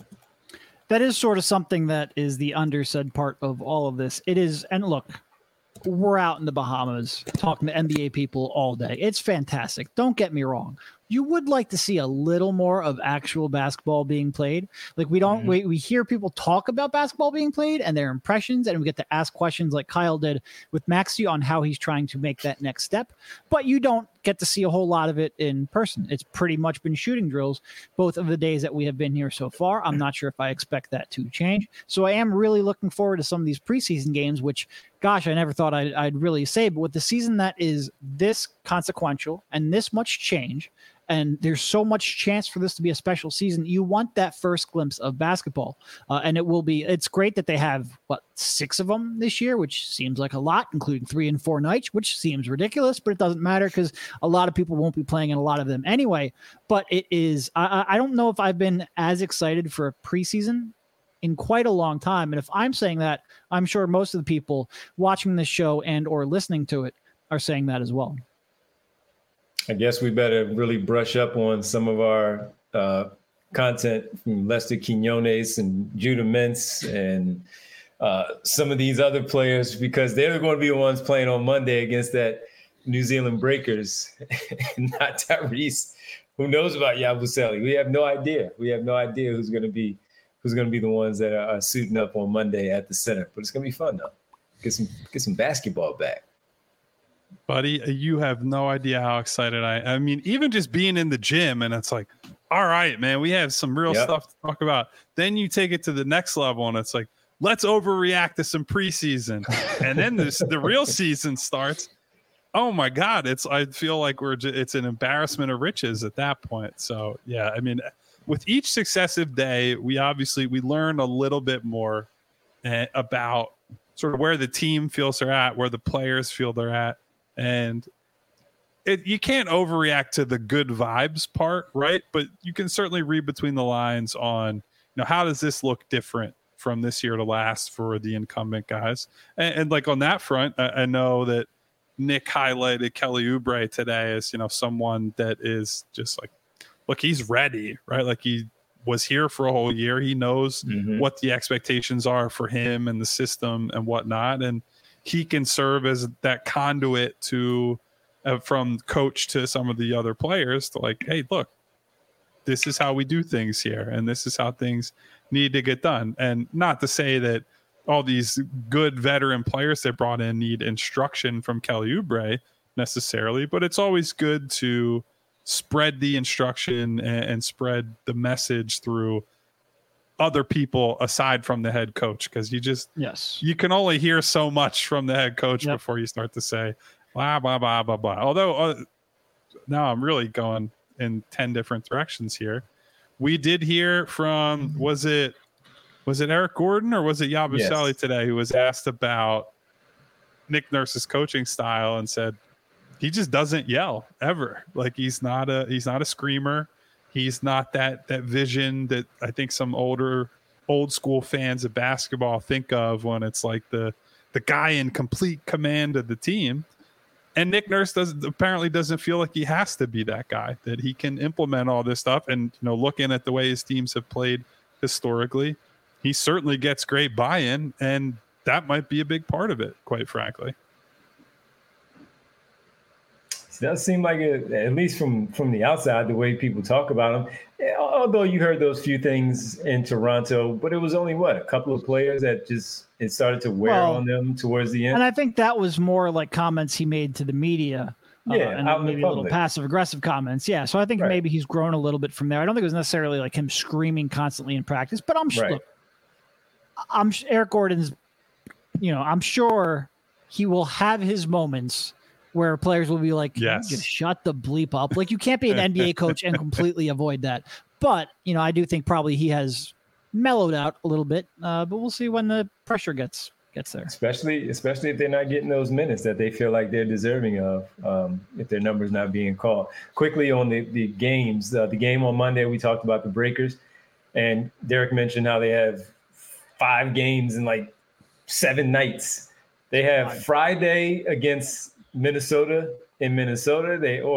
That is sort of something that is the undersaid part of all of this. It is, and look, we're out in the Bahamas talking to NBA people all day. It's fantastic. Don't get me wrong. You would like to see a little more of actual basketball being played. Like we don't, we hear people talk about basketball being played and their impressions, and we get to ask questions like Kyle did with Maxey on how he's trying to make that next step. But you don't get to see a whole lot of it in person. It's pretty much been shooting drills both of the days that we have been here so far. I'm not sure if I expect that to change. So I am really looking forward to some of these preseason games, which, gosh, I never thought I'd really say. But with the season that is this consequential and this much change, and there's so much chance for this to be a special season, you want that first glimpse of basketball. And it's great that they have, 6 of them this year, which seems like a lot, including 3 and 4 nights, which seems ridiculous, but it doesn't matter because a lot of people won't be playing in a lot of them anyway. But it is, I don't know if I've been as excited for a preseason in quite a long time. And if I'm saying that, I'm sure most of the people watching this show and or listening to it are saying that as well. I guess we better really brush up on some of our content from Lester Quinones and Judah Mintz and some of these other players, because they're going to be the ones playing on Monday against that New Zealand Breakers, not Tyrese. Who knows about Yabusele? We have no idea. We have no idea who's going to be the ones that are suiting up on Monday at the center. But it's going to be fun though. Get some basketball back. Buddy, you have no idea how excited I mean, even just being in the gym, and it's like, all right, man, we have some real stuff to talk about. Then you take it to the next level, and it's like, let's overreact to some preseason. And then the real season starts. Oh my God, I feel like it's an embarrassment of riches at that point. So yeah, I mean, with each successive day, we learn a little bit more about sort of where the team feels they're at, where the players feel they're at. And you can't overreact to the good vibes part, right? But you can certainly read between the lines on, how does this look different from this year to last for the incumbent guys? And like on that front, I know that Nick highlighted Kelly Oubre today as, someone that is just like, look, he's ready, right? Like he was here for a whole year. He knows what the expectations are for him and the system and whatnot. And he can serve as that conduit to from coach to some of the other players to like, hey, look, this is how we do things here, and this is how things need to get done. And not to say that all these good veteran players they brought in need instruction from Kelly Oubre necessarily, but it's always good to spread the instruction and spread the message through other people aside from the head coach, because you can only hear so much from the head coach before you start to say blah blah blah blah blah. Although now I'm really going in 10 different directions here. We did hear from was it Eric Gordon or was it Yabusele today, who was asked about Nick Nurse's coaching style and said he just doesn't yell ever. Like he's not a screamer. He's not that vision that I think some old school fans of basketball think of when it's like the guy in complete command of the team. And Nick Nurse apparently doesn't feel like he has to be that guy, that he can implement all this stuff. And, looking at the way his teams have played historically, he certainly gets great buy-in, and that might be a big part of it, quite frankly. It does seem like it, at least from the outside, the way people talk about him. Although you heard those few things in Toronto, but it was only a couple of players that just it started to wear on them towards the end. And I think that was more like comments he made to the media, and maybe a little passive aggressive comments. Yeah, so I think maybe he's grown a little bit from there. I don't think it was necessarily like him screaming constantly in practice, but I'm sure. Look, Eric Gordon's. I'm sure he will have his moments where players will be like, just shut the bleep up. Like, you can't be an NBA coach and completely avoid that. But, I do think probably he has mellowed out a little bit, but we'll see when the pressure gets there. Especially if they're not getting those minutes that they feel like they're deserving of, if their number's not being called. Quickly on the games, the game on Monday, we talked about the Breakers, and Derek mentioned how they have 5 games in like 7 nights. They have Friday against Minnesota in Minnesota.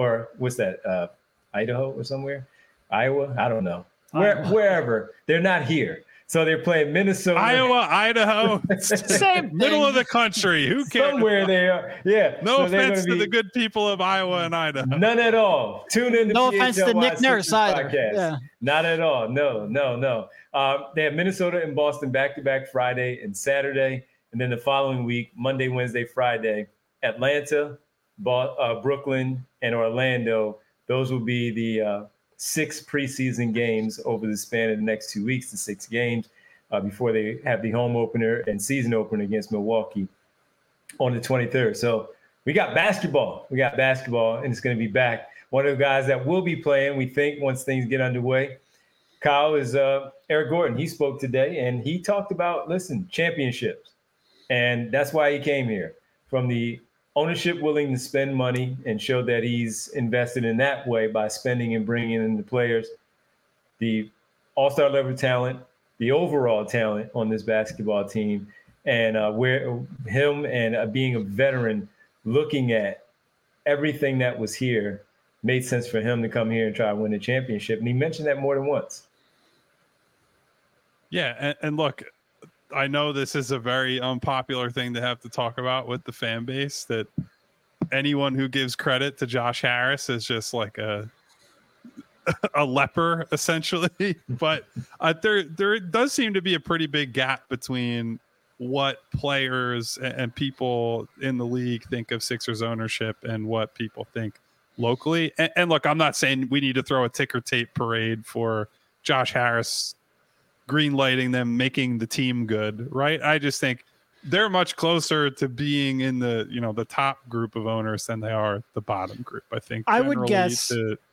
Idaho or somewhere, Iowa. I don't know. Wherever. They're not here. So they're playing Minnesota, Iowa, Idaho, same middle of the country. Who cares? Somewhere they are. Yeah. No offense to the good people of Iowa and Idaho. None at all. Tune in to no offense to Nick Nurse either. Yeah. Not at all. No. They have Minnesota and Boston back-to-back Friday and Saturday. And then the following week, Monday, Wednesday, Friday, Atlanta, Brooklyn, and Orlando. Those will be the 6 preseason games over the span of the next 2 weeks, the 6 games before they have the home opener and season opener against Milwaukee on the 23rd. So we got basketball. And it's going to be back. One of the guys that will be playing, we think, once things get underway, Kyle, is Eric Gordon. He spoke today, and he talked about, championships. And that's why he came here, from the ownership willing to spend money, and showed that he's invested in that way by spending and bringing in the players, the all-star level talent, the overall talent on this basketball team, and where him and being a veteran, looking at everything that was here, made sense for him to come here and try to win a championship. And he mentioned that more than once. Yeah, and look, I know this is a very unpopular thing to have to talk about with the fan base, that anyone who gives credit to Josh Harris is just like a leper, essentially. But there does seem to be a pretty big gap between what players and people in the league think of Sixers ownership and what people think locally. And look, I'm not saying we need to throw a ticker tape parade for Josh Harris green lighting them, making the team good, right? I just think they're much closer to being in the, the top group of owners than they are the bottom group. I think I would guess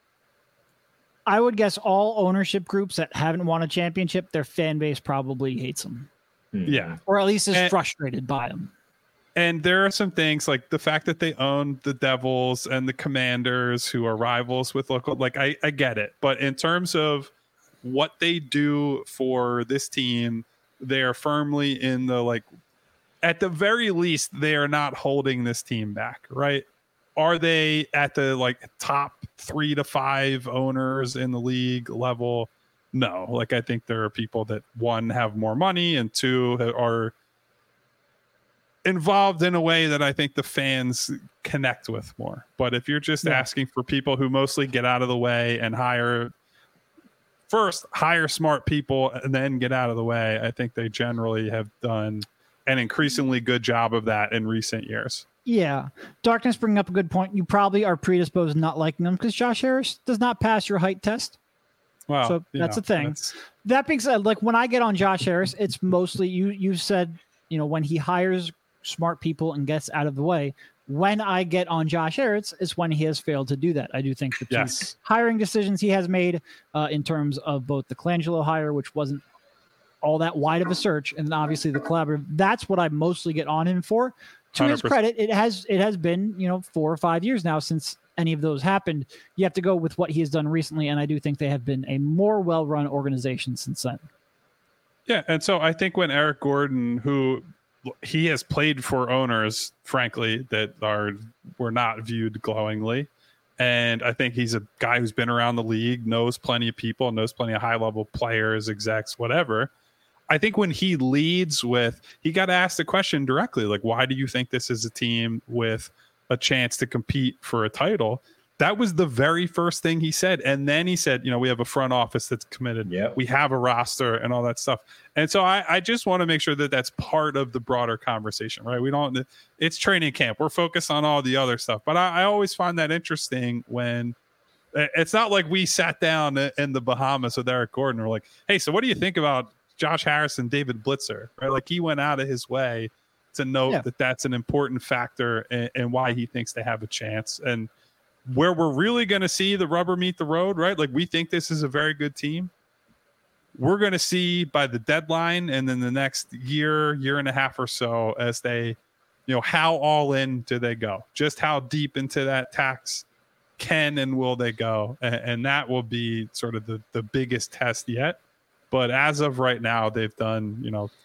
all ownership groups that haven't won a championship, their fan base probably hates them. Yeah. Or at least is frustrated by them. And there are some things like the fact that they own the Devils and the Commanders, who are rivals with local, like I get it. But in terms of what they do for this team, they are firmly in the, at the very least, they are not holding this team back, right? Are they at the top 3 to 5 owners in the league level? No. I think there are people that, 1, have more money, and 2, are involved in a way that I think the fans connect with more. But if you're just asking for people who mostly get out of the way and hire smart people and then get out of the way, I think they generally have done an increasingly good job of that in recent years. Yeah. Darkness bringing up a good point. You probably are predisposed to not liking him because Josh Harris does not pass your height test. Wow. So that's a thing. That being said, like when I get on Josh Harris, it's mostly you said, when he hires smart people and gets out of the way. When I get on Josh Harris, it's when he has failed to do that. I do think the two hiring decisions he has made in terms of both the Colangelo hire, which wasn't all that wide of a search, and then obviously the collaborative, that's what I mostly get on him for. To 100%. His credit, it has been 4 or 5 years now since any of those happened. You have to go with what he has done recently, and I do think they have been a more well-run organization since then. Yeah, and so I think when Eric Gordon, who he has played for owners, frankly, that were not viewed glowingly, and I think he's a guy who's been around the league, knows plenty of people, knows plenty of high-level players, execs, whatever. I think when he leads with, he got asked the question directly, like, why do you think this is a team with a chance to compete for a title? That was the very first thing he said. And then he said, we have a front office that's committed. Yep. We have a roster and all that stuff. And so I just want to make sure that that's part of the broader conversation, right? It's training camp. We're focused on all the other stuff. But I always find that interesting when it's not like we sat down in the Bahamas with Eric Gordon. We're like, hey, so what do you think about Josh Harris and David Blitzer, right? Like he went out of his way to note that that's an important factor and why he thinks they have a chance. And where we're really going to see the rubber meet the road, right? Like we think this is a very good team. We're going to see by the deadline and then the next year and a half or so as they, how all in do they go? Just how deep into that tax can and will they go? And that will be sort of the biggest test yet. But as of right now, they've done,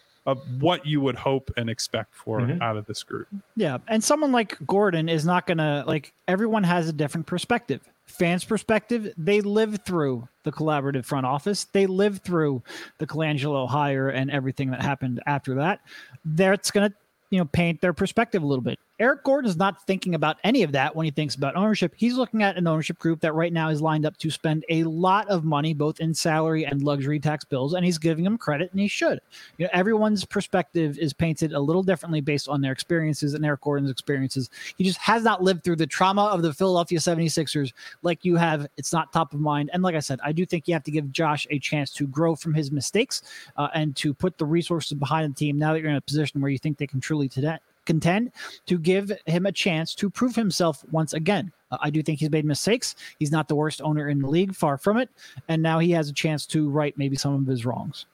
what you would hope and expect for out of this group. Yeah. And someone like Gordon is not going to, everyone has a different perspective. Fans' perspective, they live through the collaborative front office. They live through the Colangelo hire and everything that happened after that. That's going to, paint their perspective a little bit. Eric Gordon is not thinking about any of that when he thinks about ownership. He's looking at an ownership group that right now is lined up to spend a lot of money, both in salary and luxury tax bills, and he's giving them credit, and he should. Everyone's perspective is painted a little differently based on their experiences, and Eric Gordon's experiences. He just has not lived through the trauma of the Philadelphia 76ers like you have. It's not top of mind. And like I said, I do think you have to give Josh a chance to grow from his mistakes and to put the resources behind the team now that you're in a position where you think they can truly contend, to give him a chance to prove himself once again. I do think he's made mistakes. He's not the worst owner in the league, far from it. And now he has a chance to right maybe some of his wrongs.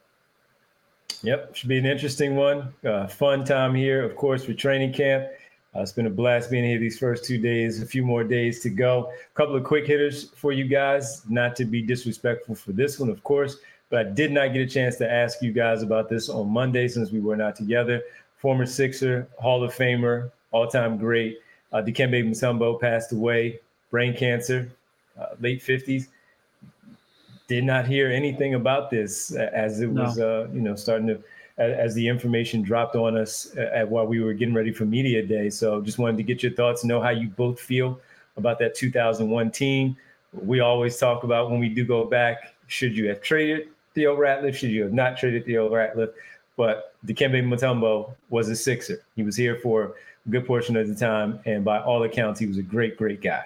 Yep. Should be an interesting one. Fun time here, of course, for training camp. It's been a blast being here these first 2 days, a few more days to go. A couple of quick hitters for you guys, not to be disrespectful for this one, of course, but I did not get a chance to ask you guys about this on Monday since we were not together. Former Sixer, Hall of Famer, all-time great. Dikembe Mutombo passed away, brain cancer, late 50s. Did not hear anything about this as it was, starting to, as the information dropped on us while we were getting ready for Media Day. So just wanted to get your thoughts, know how you both feel about that 2001 team. We always talk about when we do go back, should you have traded Theo Ratliff? Should you have not traded Theo Ratliff? But Dikembe Mutombo was a Sixer. He was here for a good portion of the time, and by all accounts, he was a great, great guy.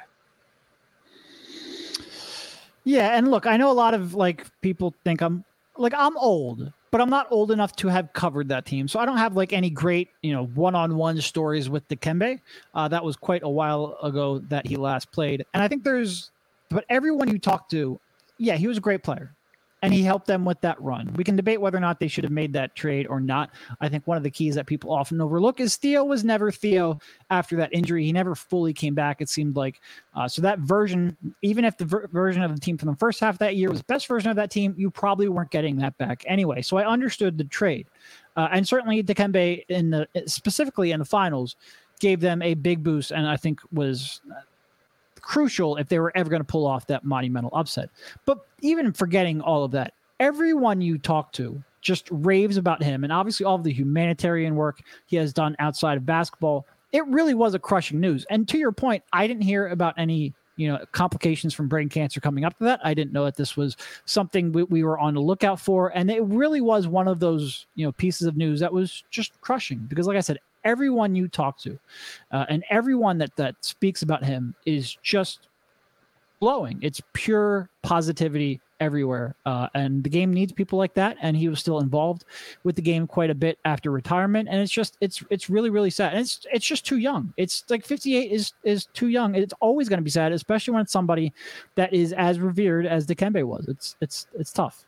Yeah, and look, I know a lot of people think I'm old, but I'm not old enough to have covered that team. So I don't have any great, one-on-one stories with Dikembe. That was quite a while ago that he last played. And I think but everyone you talk to, yeah, he was a great player. And he helped them with that run. We can debate whether or not they should have made that trade or not. I think one of the keys that people often overlook is Theo was never Theo after that injury. He never fully came back, it seemed like. So that version, even if the version of the team from the first half of that year was the best version of that team, you probably weren't getting that back anyway. So I understood the trade. And certainly Dikembe, specifically in the finals, gave them a big boost and I think was crucial if they were ever going to pull off that monumental upset. But even forgetting all of that, everyone you talk to just raves about him. And obviously all of the humanitarian work he has done outside of basketball, it really was a crushing news. And to your point, I didn't hear about any, complications from brain cancer coming up to that. I didn't know that this was something we were on the lookout for. And it really was one of those, pieces of news that was just crushing because like I said, everyone you talk to, and everyone that speaks about him is just glowing. It's pure positivity everywhere. And the game needs people like that. And he was still involved with the game quite a bit after retirement. And it's really, really sad. And it's just too young. It's like 58 is too young. It's always going to be sad, especially when it's somebody that is as revered as Dikembe was. It's tough.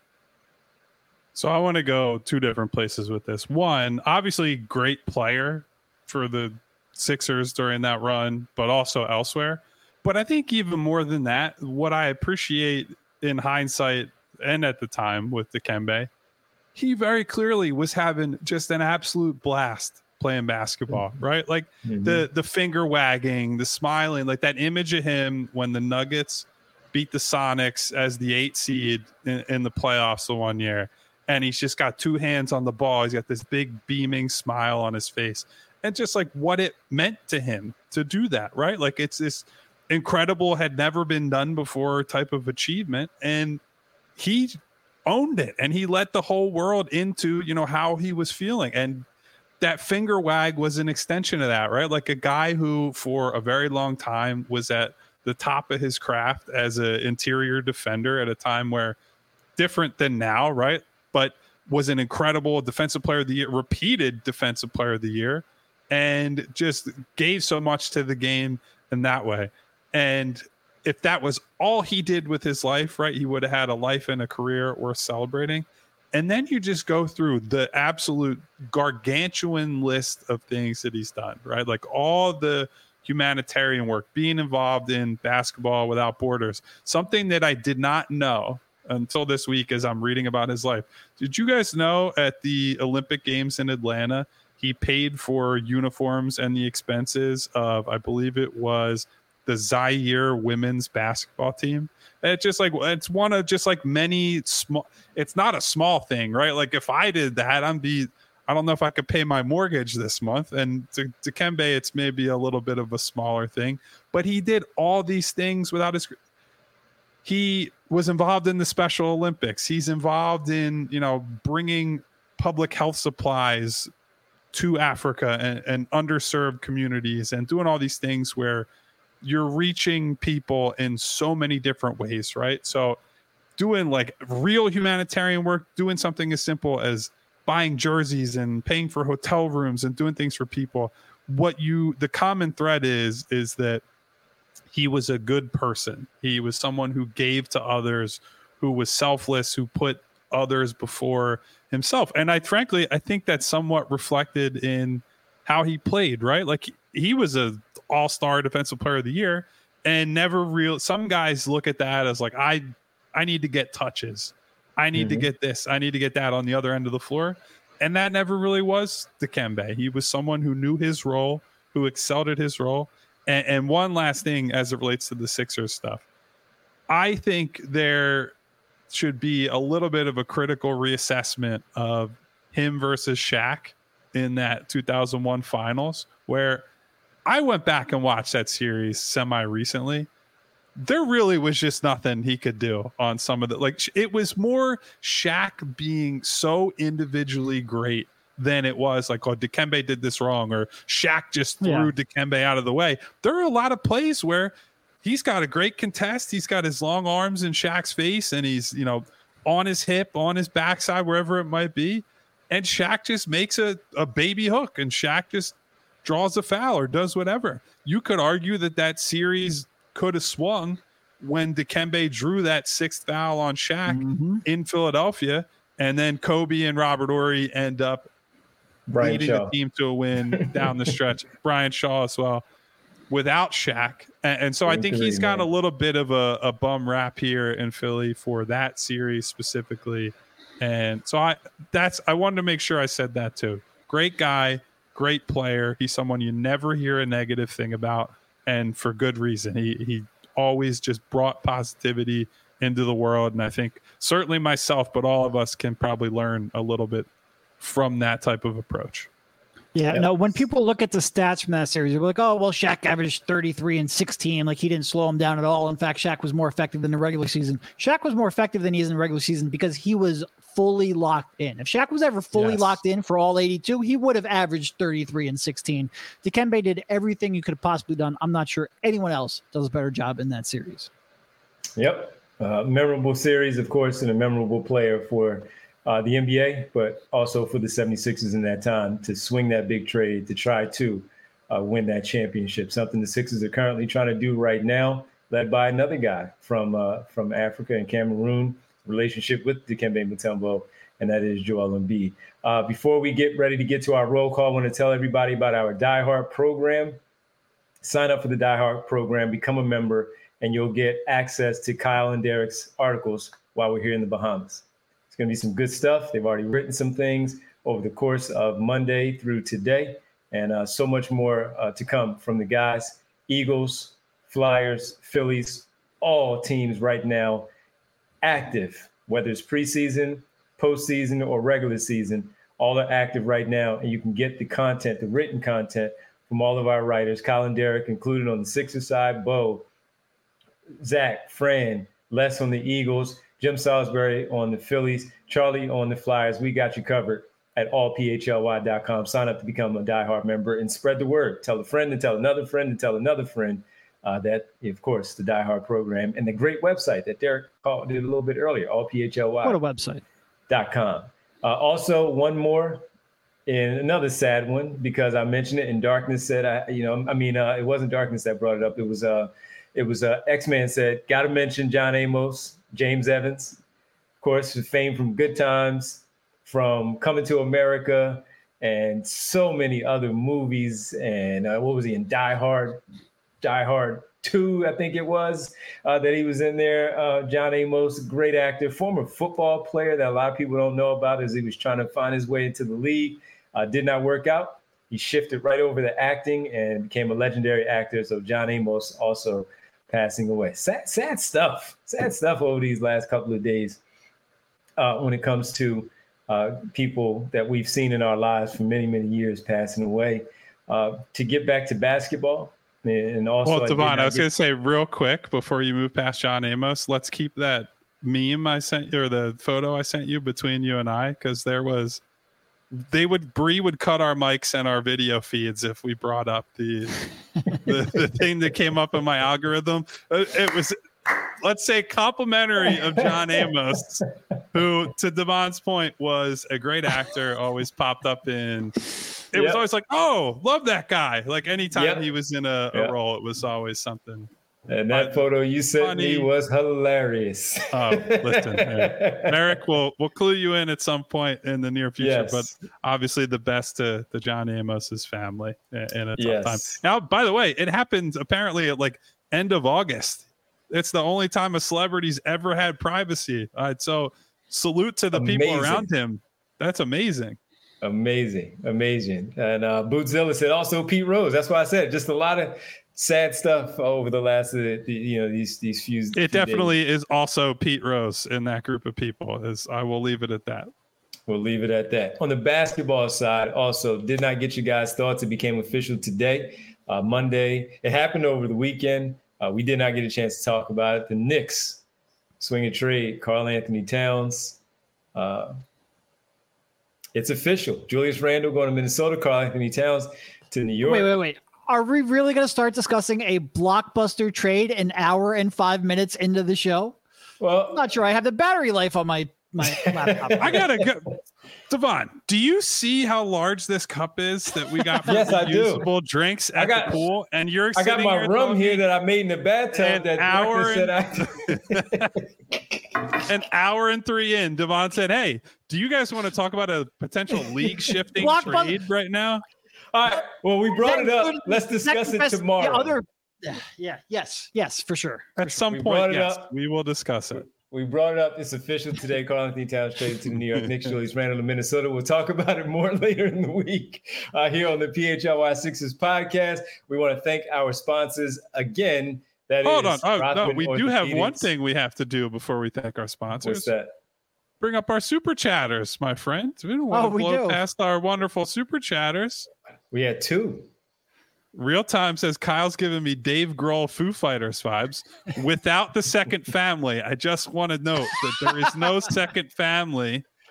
So I want to go two different places with this. One, obviously great player for the Sixers during that run, but also elsewhere. But I think even more than that, what I appreciate in hindsight and at the time with Dikembe, he very clearly was having just an absolute blast playing basketball, right? Like the finger wagging, the smiling, like that image of him when the Nuggets beat the Sonics as the 8 seed in the playoffs the one year. And he's just got two hands on the ball. He's got this big beaming smile on his face. And just like what it meant to him to do that, right? Like it's this incredible, had never been done before type of achievement, and he owned it, and he let the whole world into how he was feeling. And that finger wag was an extension of that, right? Like a guy who for a very long time was at the top of his craft as an interior defender at a time where different than now, right? But was an incredible defensive player of the year, repeated defensive player of the year, and just gave so much to the game in that way. And if that was all he did with his life, right, he would have had a life and a career worth celebrating. And then you just go through the absolute gargantuan list of things that he's done, right? Like all the humanitarian work, being involved in Basketball Without Borders, something that I did not know until this week as I'm reading about his life. Did you guys know at the Olympic Games in Atlanta, he paid for uniforms and the expenses of, I believe it was the Zaire women's basketball team? It's just like, it's one of just like many small, it's not a small thing, right? Like if I did that, I don't know if I could pay my mortgage this month. And to Dikembe, it's maybe a little bit of a smaller thing, but he did all these things without he was involved in the Special Olympics. He's involved in, bringing public health supplies to Africa and underserved communities, and doing all these things where you're reaching people in so many different ways, right? So doing like real humanitarian work, doing something as simple as buying jerseys and paying for hotel rooms and doing things for people. The common thread is that he was a good person. He was someone who gave to others, who was selfless, who put others before himself. And I think that's somewhat reflected in how he played, right? Like he was a all-star defensive player of the year, and some guys look at that as like, I need to get touches. I need to get this. I need to get that on the other end of the floor. And that never really was Dikembe. He was someone who knew his role, who excelled at his role. And one last thing as it relates to the Sixers stuff. I think there should be a little bit of a critical reassessment of him versus Shaq in that 2001 finals, where I went back and watched that series semi-recently. There really was just nothing he could do on some of the, like, it was more Shaq being so individually great than it was like, oh, Dikembe did this wrong, or Shaq just threw Dikembe out of the way. There are a lot of plays where he's got a great contest. He's got his long arms in Shaq's face, and he's, on his hip, on his backside, wherever it might be. And Shaq just makes a baby hook, and Shaq just draws a foul or does whatever. You could argue that series could have swung when Dikembe drew that sixth foul on Shaq in Philadelphia, and then Kobe and Robert Horry end up leading the team to a win down the stretch. Brian Shaw as well, without Shaq. And so I think he's got a little bit of a bum rap here in Philly for that series specifically. And so I wanted to make sure I said that too. Great guy, great player. He's someone you never hear a negative thing about, and for good reason. He always just brought positivity into the world. And I think certainly myself, but all of us can probably learn a little bit from that type of approach. Yeah, no, when people look at the stats from that series, they're like, oh, well, Shaq averaged 33 and 16. Like, he didn't slow him down at all. In fact, Shaq was more effective than the regular season. Shaq was more effective than he is in the regular season because he was fully locked in. If Shaq was ever fully locked in for all 82, he would have averaged 33 and 16. Dikembe did everything you could have possibly done. I'm not sure anyone else does a better job in that series. Yep. Memorable series, of course, and a memorable player for the NBA, but also for the 76ers in that time to swing that big trade to try to win that championship, something the Sixers are currently trying to do right now, led by another guy from Africa and Cameroon, relationship with Dikembe Mutombo, and that is Joel Embiid. Before we get ready to get to our roll call, I want to tell everybody about our Die Hard program. Sign up for the Die Hard program, become a member, and you'll get access to Kyle and Derek's articles while we're here in the Bahamas. It's going to be some good stuff. They've already written some things over the course of Monday through today, and so much more to come from the guys. Eagles, Flyers, Phillies, all teams right now active, whether it's preseason, postseason, or regular season. All are active right now, and you can get the content, the written content from all of our writers, Kyle and Derek included on the Sixers side, Bo, Zach, Fran, Les on the Eagles, Jim Salisbury on the Phillies, Charlie on the Flyers. We got you covered at allphly.com. Sign up to become a Die Hard member and spread the word. Tell a friend and tell another friend and tell another friend that, of course, the Die Hard program and the great website that Derek did a little bit earlier, allphly.com. What a website. Also, one more, and another sad one, because I mentioned it, and Darkness said, it wasn't Darkness that brought it up. It was X-Man said, got to mention John Amos, James Evans, of course, famed from Good Times, from Coming to America, and so many other movies. And what was he in? Die Hard 2, I think it was, that he was in there. John Amos, great actor, former football player that a lot of people don't know about as he was trying to find his way into the league. Did not work out. He shifted right over to acting and became a legendary actor. So John Amos also passing away. Sad stuff over these last couple of days when it comes to people that we've seen in our lives for many, many years passing away. To get back to basketball, and also, well, Devon, I was going to say real quick before you move past John Amos, let's keep that meme I sent you, or the photo I sent you, between you and I, because Bree would cut our mics and our video feeds if we brought up the thing that came up in my algorithm. It was, let's say, complimentary of John Amos, who, to Devon's point, was a great actor, always popped up in. It was always like, oh, love that guy. Like anytime he was in a role, it was always something. And that photo you sent me was hilarious. Oh, listen, Merrick, we'll clue you in at some point in the near future. Yes. But obviously, the best to John Amos's family in a tough time. Now, by the way, it happened apparently at like end of August. It's the only time a celebrity's ever had privacy. So salute to the people around him. That's amazing. Amazing. And Bootzilla said also Pete Rose. That's why I said just a lot of sad stuff over the last these few. It definitely is also Pete Rose in that group of people. I will leave it at that. We'll leave it at that. On the basketball side, also did not get you guys' thoughts. It became official today, Monday. It happened over the weekend. We did not get a chance to talk about it. The Knicks swing a trade, Karl Anthony Towns. It's official. Julius Randle going to Minnesota, Karl Anthony Towns to New York. Wait. Are we really going to start discussing a blockbuster trade an hour and 5 minutes into the show? Well, I'm not sure I have the battery life on my laptop. I got to go. Devon, do you see how large this cup is that we got for usable drinks at the pool? And I got my rum here that I made in the bathtub. An hour and 3 in, Devon said, "Hey, do you guys want to talk about a potential league shifting trade right now?" All right. Well, we brought it up. Let's discuss it tomorrow. Yes, for sure. At some point, yes, we will discuss it. We brought it up. It's official today. Karl Anthony Towns traded to the New York Knicks. Julius Randle to Minnesota. We'll talk about it more later in the week here on the PHLY Sixers podcast. We want to thank our sponsors again. Hold on. No, we do have one thing we have to do before we thank our sponsors. What's that? Bring up our super chatters, my friend. We don't want to blow past our wonderful super chatters. We had 2. Real Time says Kyle's giving me Dave Grohl Foo Fighters vibes without the second family. I just want to note that there is no second family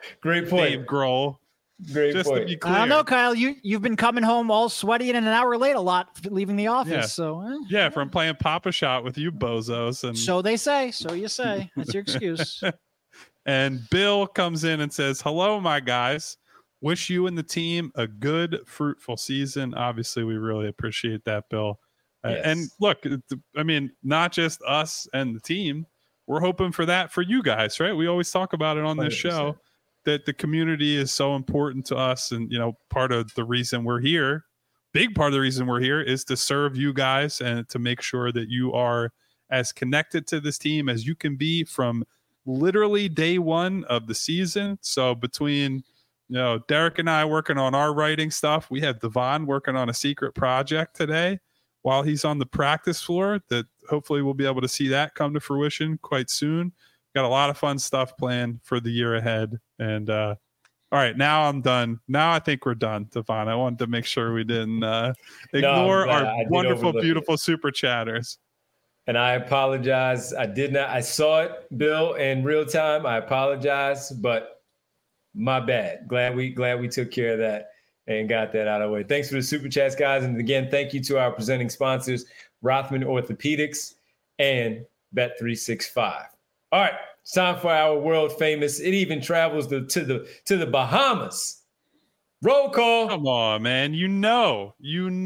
Great point. Dave Grohl. Great Just point. to be clear. I don't know, Kyle. You've been coming home all sweaty and an hour late a lot leaving the office. Yeah. So Yeah, from playing Papa Shot with you bozos. And so they say. So you say. That's your excuse. And Bill comes in and says, "Hello, my guys. Wish you and the team a good, fruitful season." Obviously, we really appreciate that, Bill. Yes. And look, I mean, not just us and the team. We're hoping for that for you guys, right? We always talk about it on this 100%. show, that the community is so important to us. And, you know, part of the reason we're here, big part of the reason we're here, is to serve you guys and to make sure that you are as connected to this team as you can be from literally day one of the season. So between, you know, Derek and I working on our writing stuff, we have Devon working on a secret project today while he's on the practice floor, that hopefully we'll be able to see that come to fruition quite soon. Got a lot of fun stuff planned for the year ahead. And all right, now I'm done. Now I think we're done, Devon. I wanted to make sure we didn't ignore our wonderful, beautiful super chatters. And I apologize. I did not. I saw it, Bill, in real time. I apologize, but my bad. Glad we took care of that and got that out of the way. Thanks for the super chats, guys. And again, thank you to our presenting sponsors, Rothman Orthopedics and Bet365. All right, it's time for our world famous. It even travels to the Bahamas. Roll call. Come on, man. You know,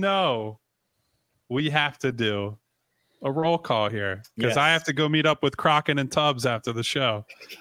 we have to do a roll call here because Yes. I have to go meet up with Crockett and Tubbs after the show.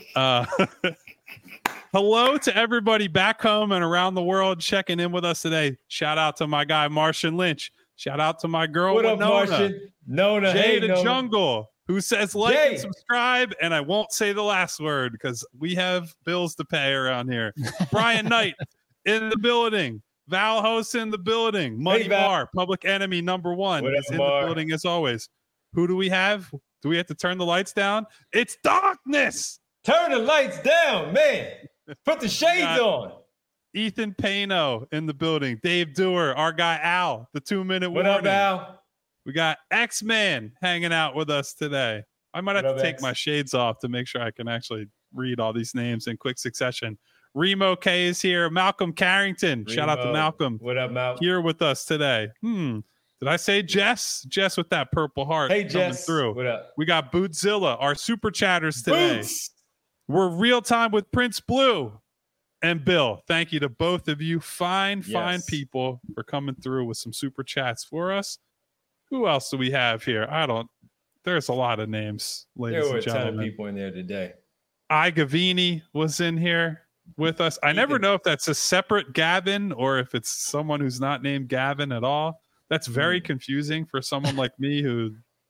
Hello to everybody back home and around the world checking in with us today. Shout out to my guy, Martian Lynch. Shout out to my girl, What up, Winona. Martian? Nona. Jay Hey, the Nona. Jungle, who says like Jay. and subscribe, and I won't say the last word because we have bills to pay around here. Brian Knight in the building. Val Host in the building. Money Hey, Val. Bar, Public Enemy #1 What up, is in Mar? the building as always. Who do we have? Do we have to turn the lights down? It's darkness. Turn the lights down, man. Put the shades on. Ethan Pano in the building. Dave Dewar, our guy Al, the 2-minute What warning. up, Al? We got X-Man hanging out with us today. I might have What to up, take X? my shades off to make sure I can actually read all these names in quick succession. Remo K is here. Malcolm Carrington. Shout out to Remo. Malcolm. What up, Mal? Here with us today. Did I say Jess? Jess with that purple heart. Hey, coming Jess. through. What up? We got Bootzilla, our super chatters today. Boots. We're real time with Prince Blue and Bill. Thank you to both of you. Fine people for coming through with some super chats for us. Who else do we have here? There's a lot of names, ladies There were and a ton of gentlemen. people in there today. I Gavini was in here with us. I never know if that's a separate Gavin or if it's someone who's not named Gavin at all. That's very confusing for someone like me who,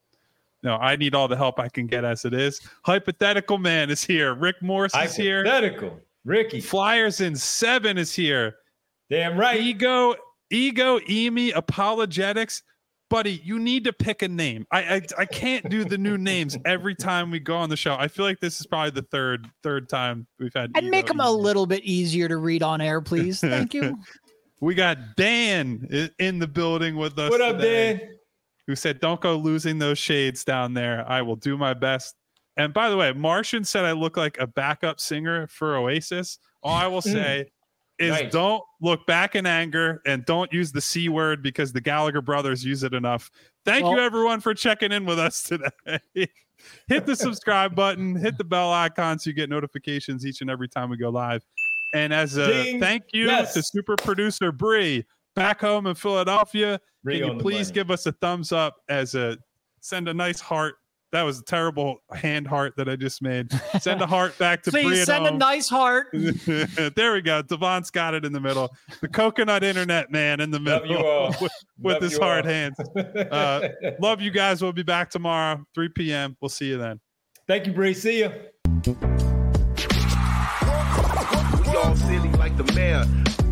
I need all the help I can get as it is. Hypothetical Man is here. Rick Morse is here. Hypothetical. Ricky. Flyers in 7 is here. Damn right. Ego, Emi, Apologetics. Buddy, you need to pick a name. I can't do the new names every time we go on the show. I feel like this is probably the third time we've had. And make them a little bit easier to read on air, please. Thank you. We got Dan in the building with us. What up, today, Dan? who said, "Don't go losing those shades down there. I will do my best." And by the way, Martian said I look like a backup singer for Oasis. All I will say is Nice. Don't look back in anger and don't use the C word because the Gallagher brothers use it enough. Thank you, everyone, for checking in with us today. Hit the subscribe button, hit the bell icon so you get notifications each and every time we go live. And as a Ding. thank you Yes. to super producer Bree back home in Philadelphia, Bree can on you the please money. give us a thumbs up send a nice heart. That was a terrible hand heart that I just made. Send a heart back to Bree Please at send a home. nice heart. There we go. Devon's got it in the middle. The coconut internet man in the Love middle you all. with Love his you hard all. hands. Love you guys. We'll be back tomorrow, 3 p.m. We'll see you then. Thank you, Bree. See ya. We all silly like the mayor.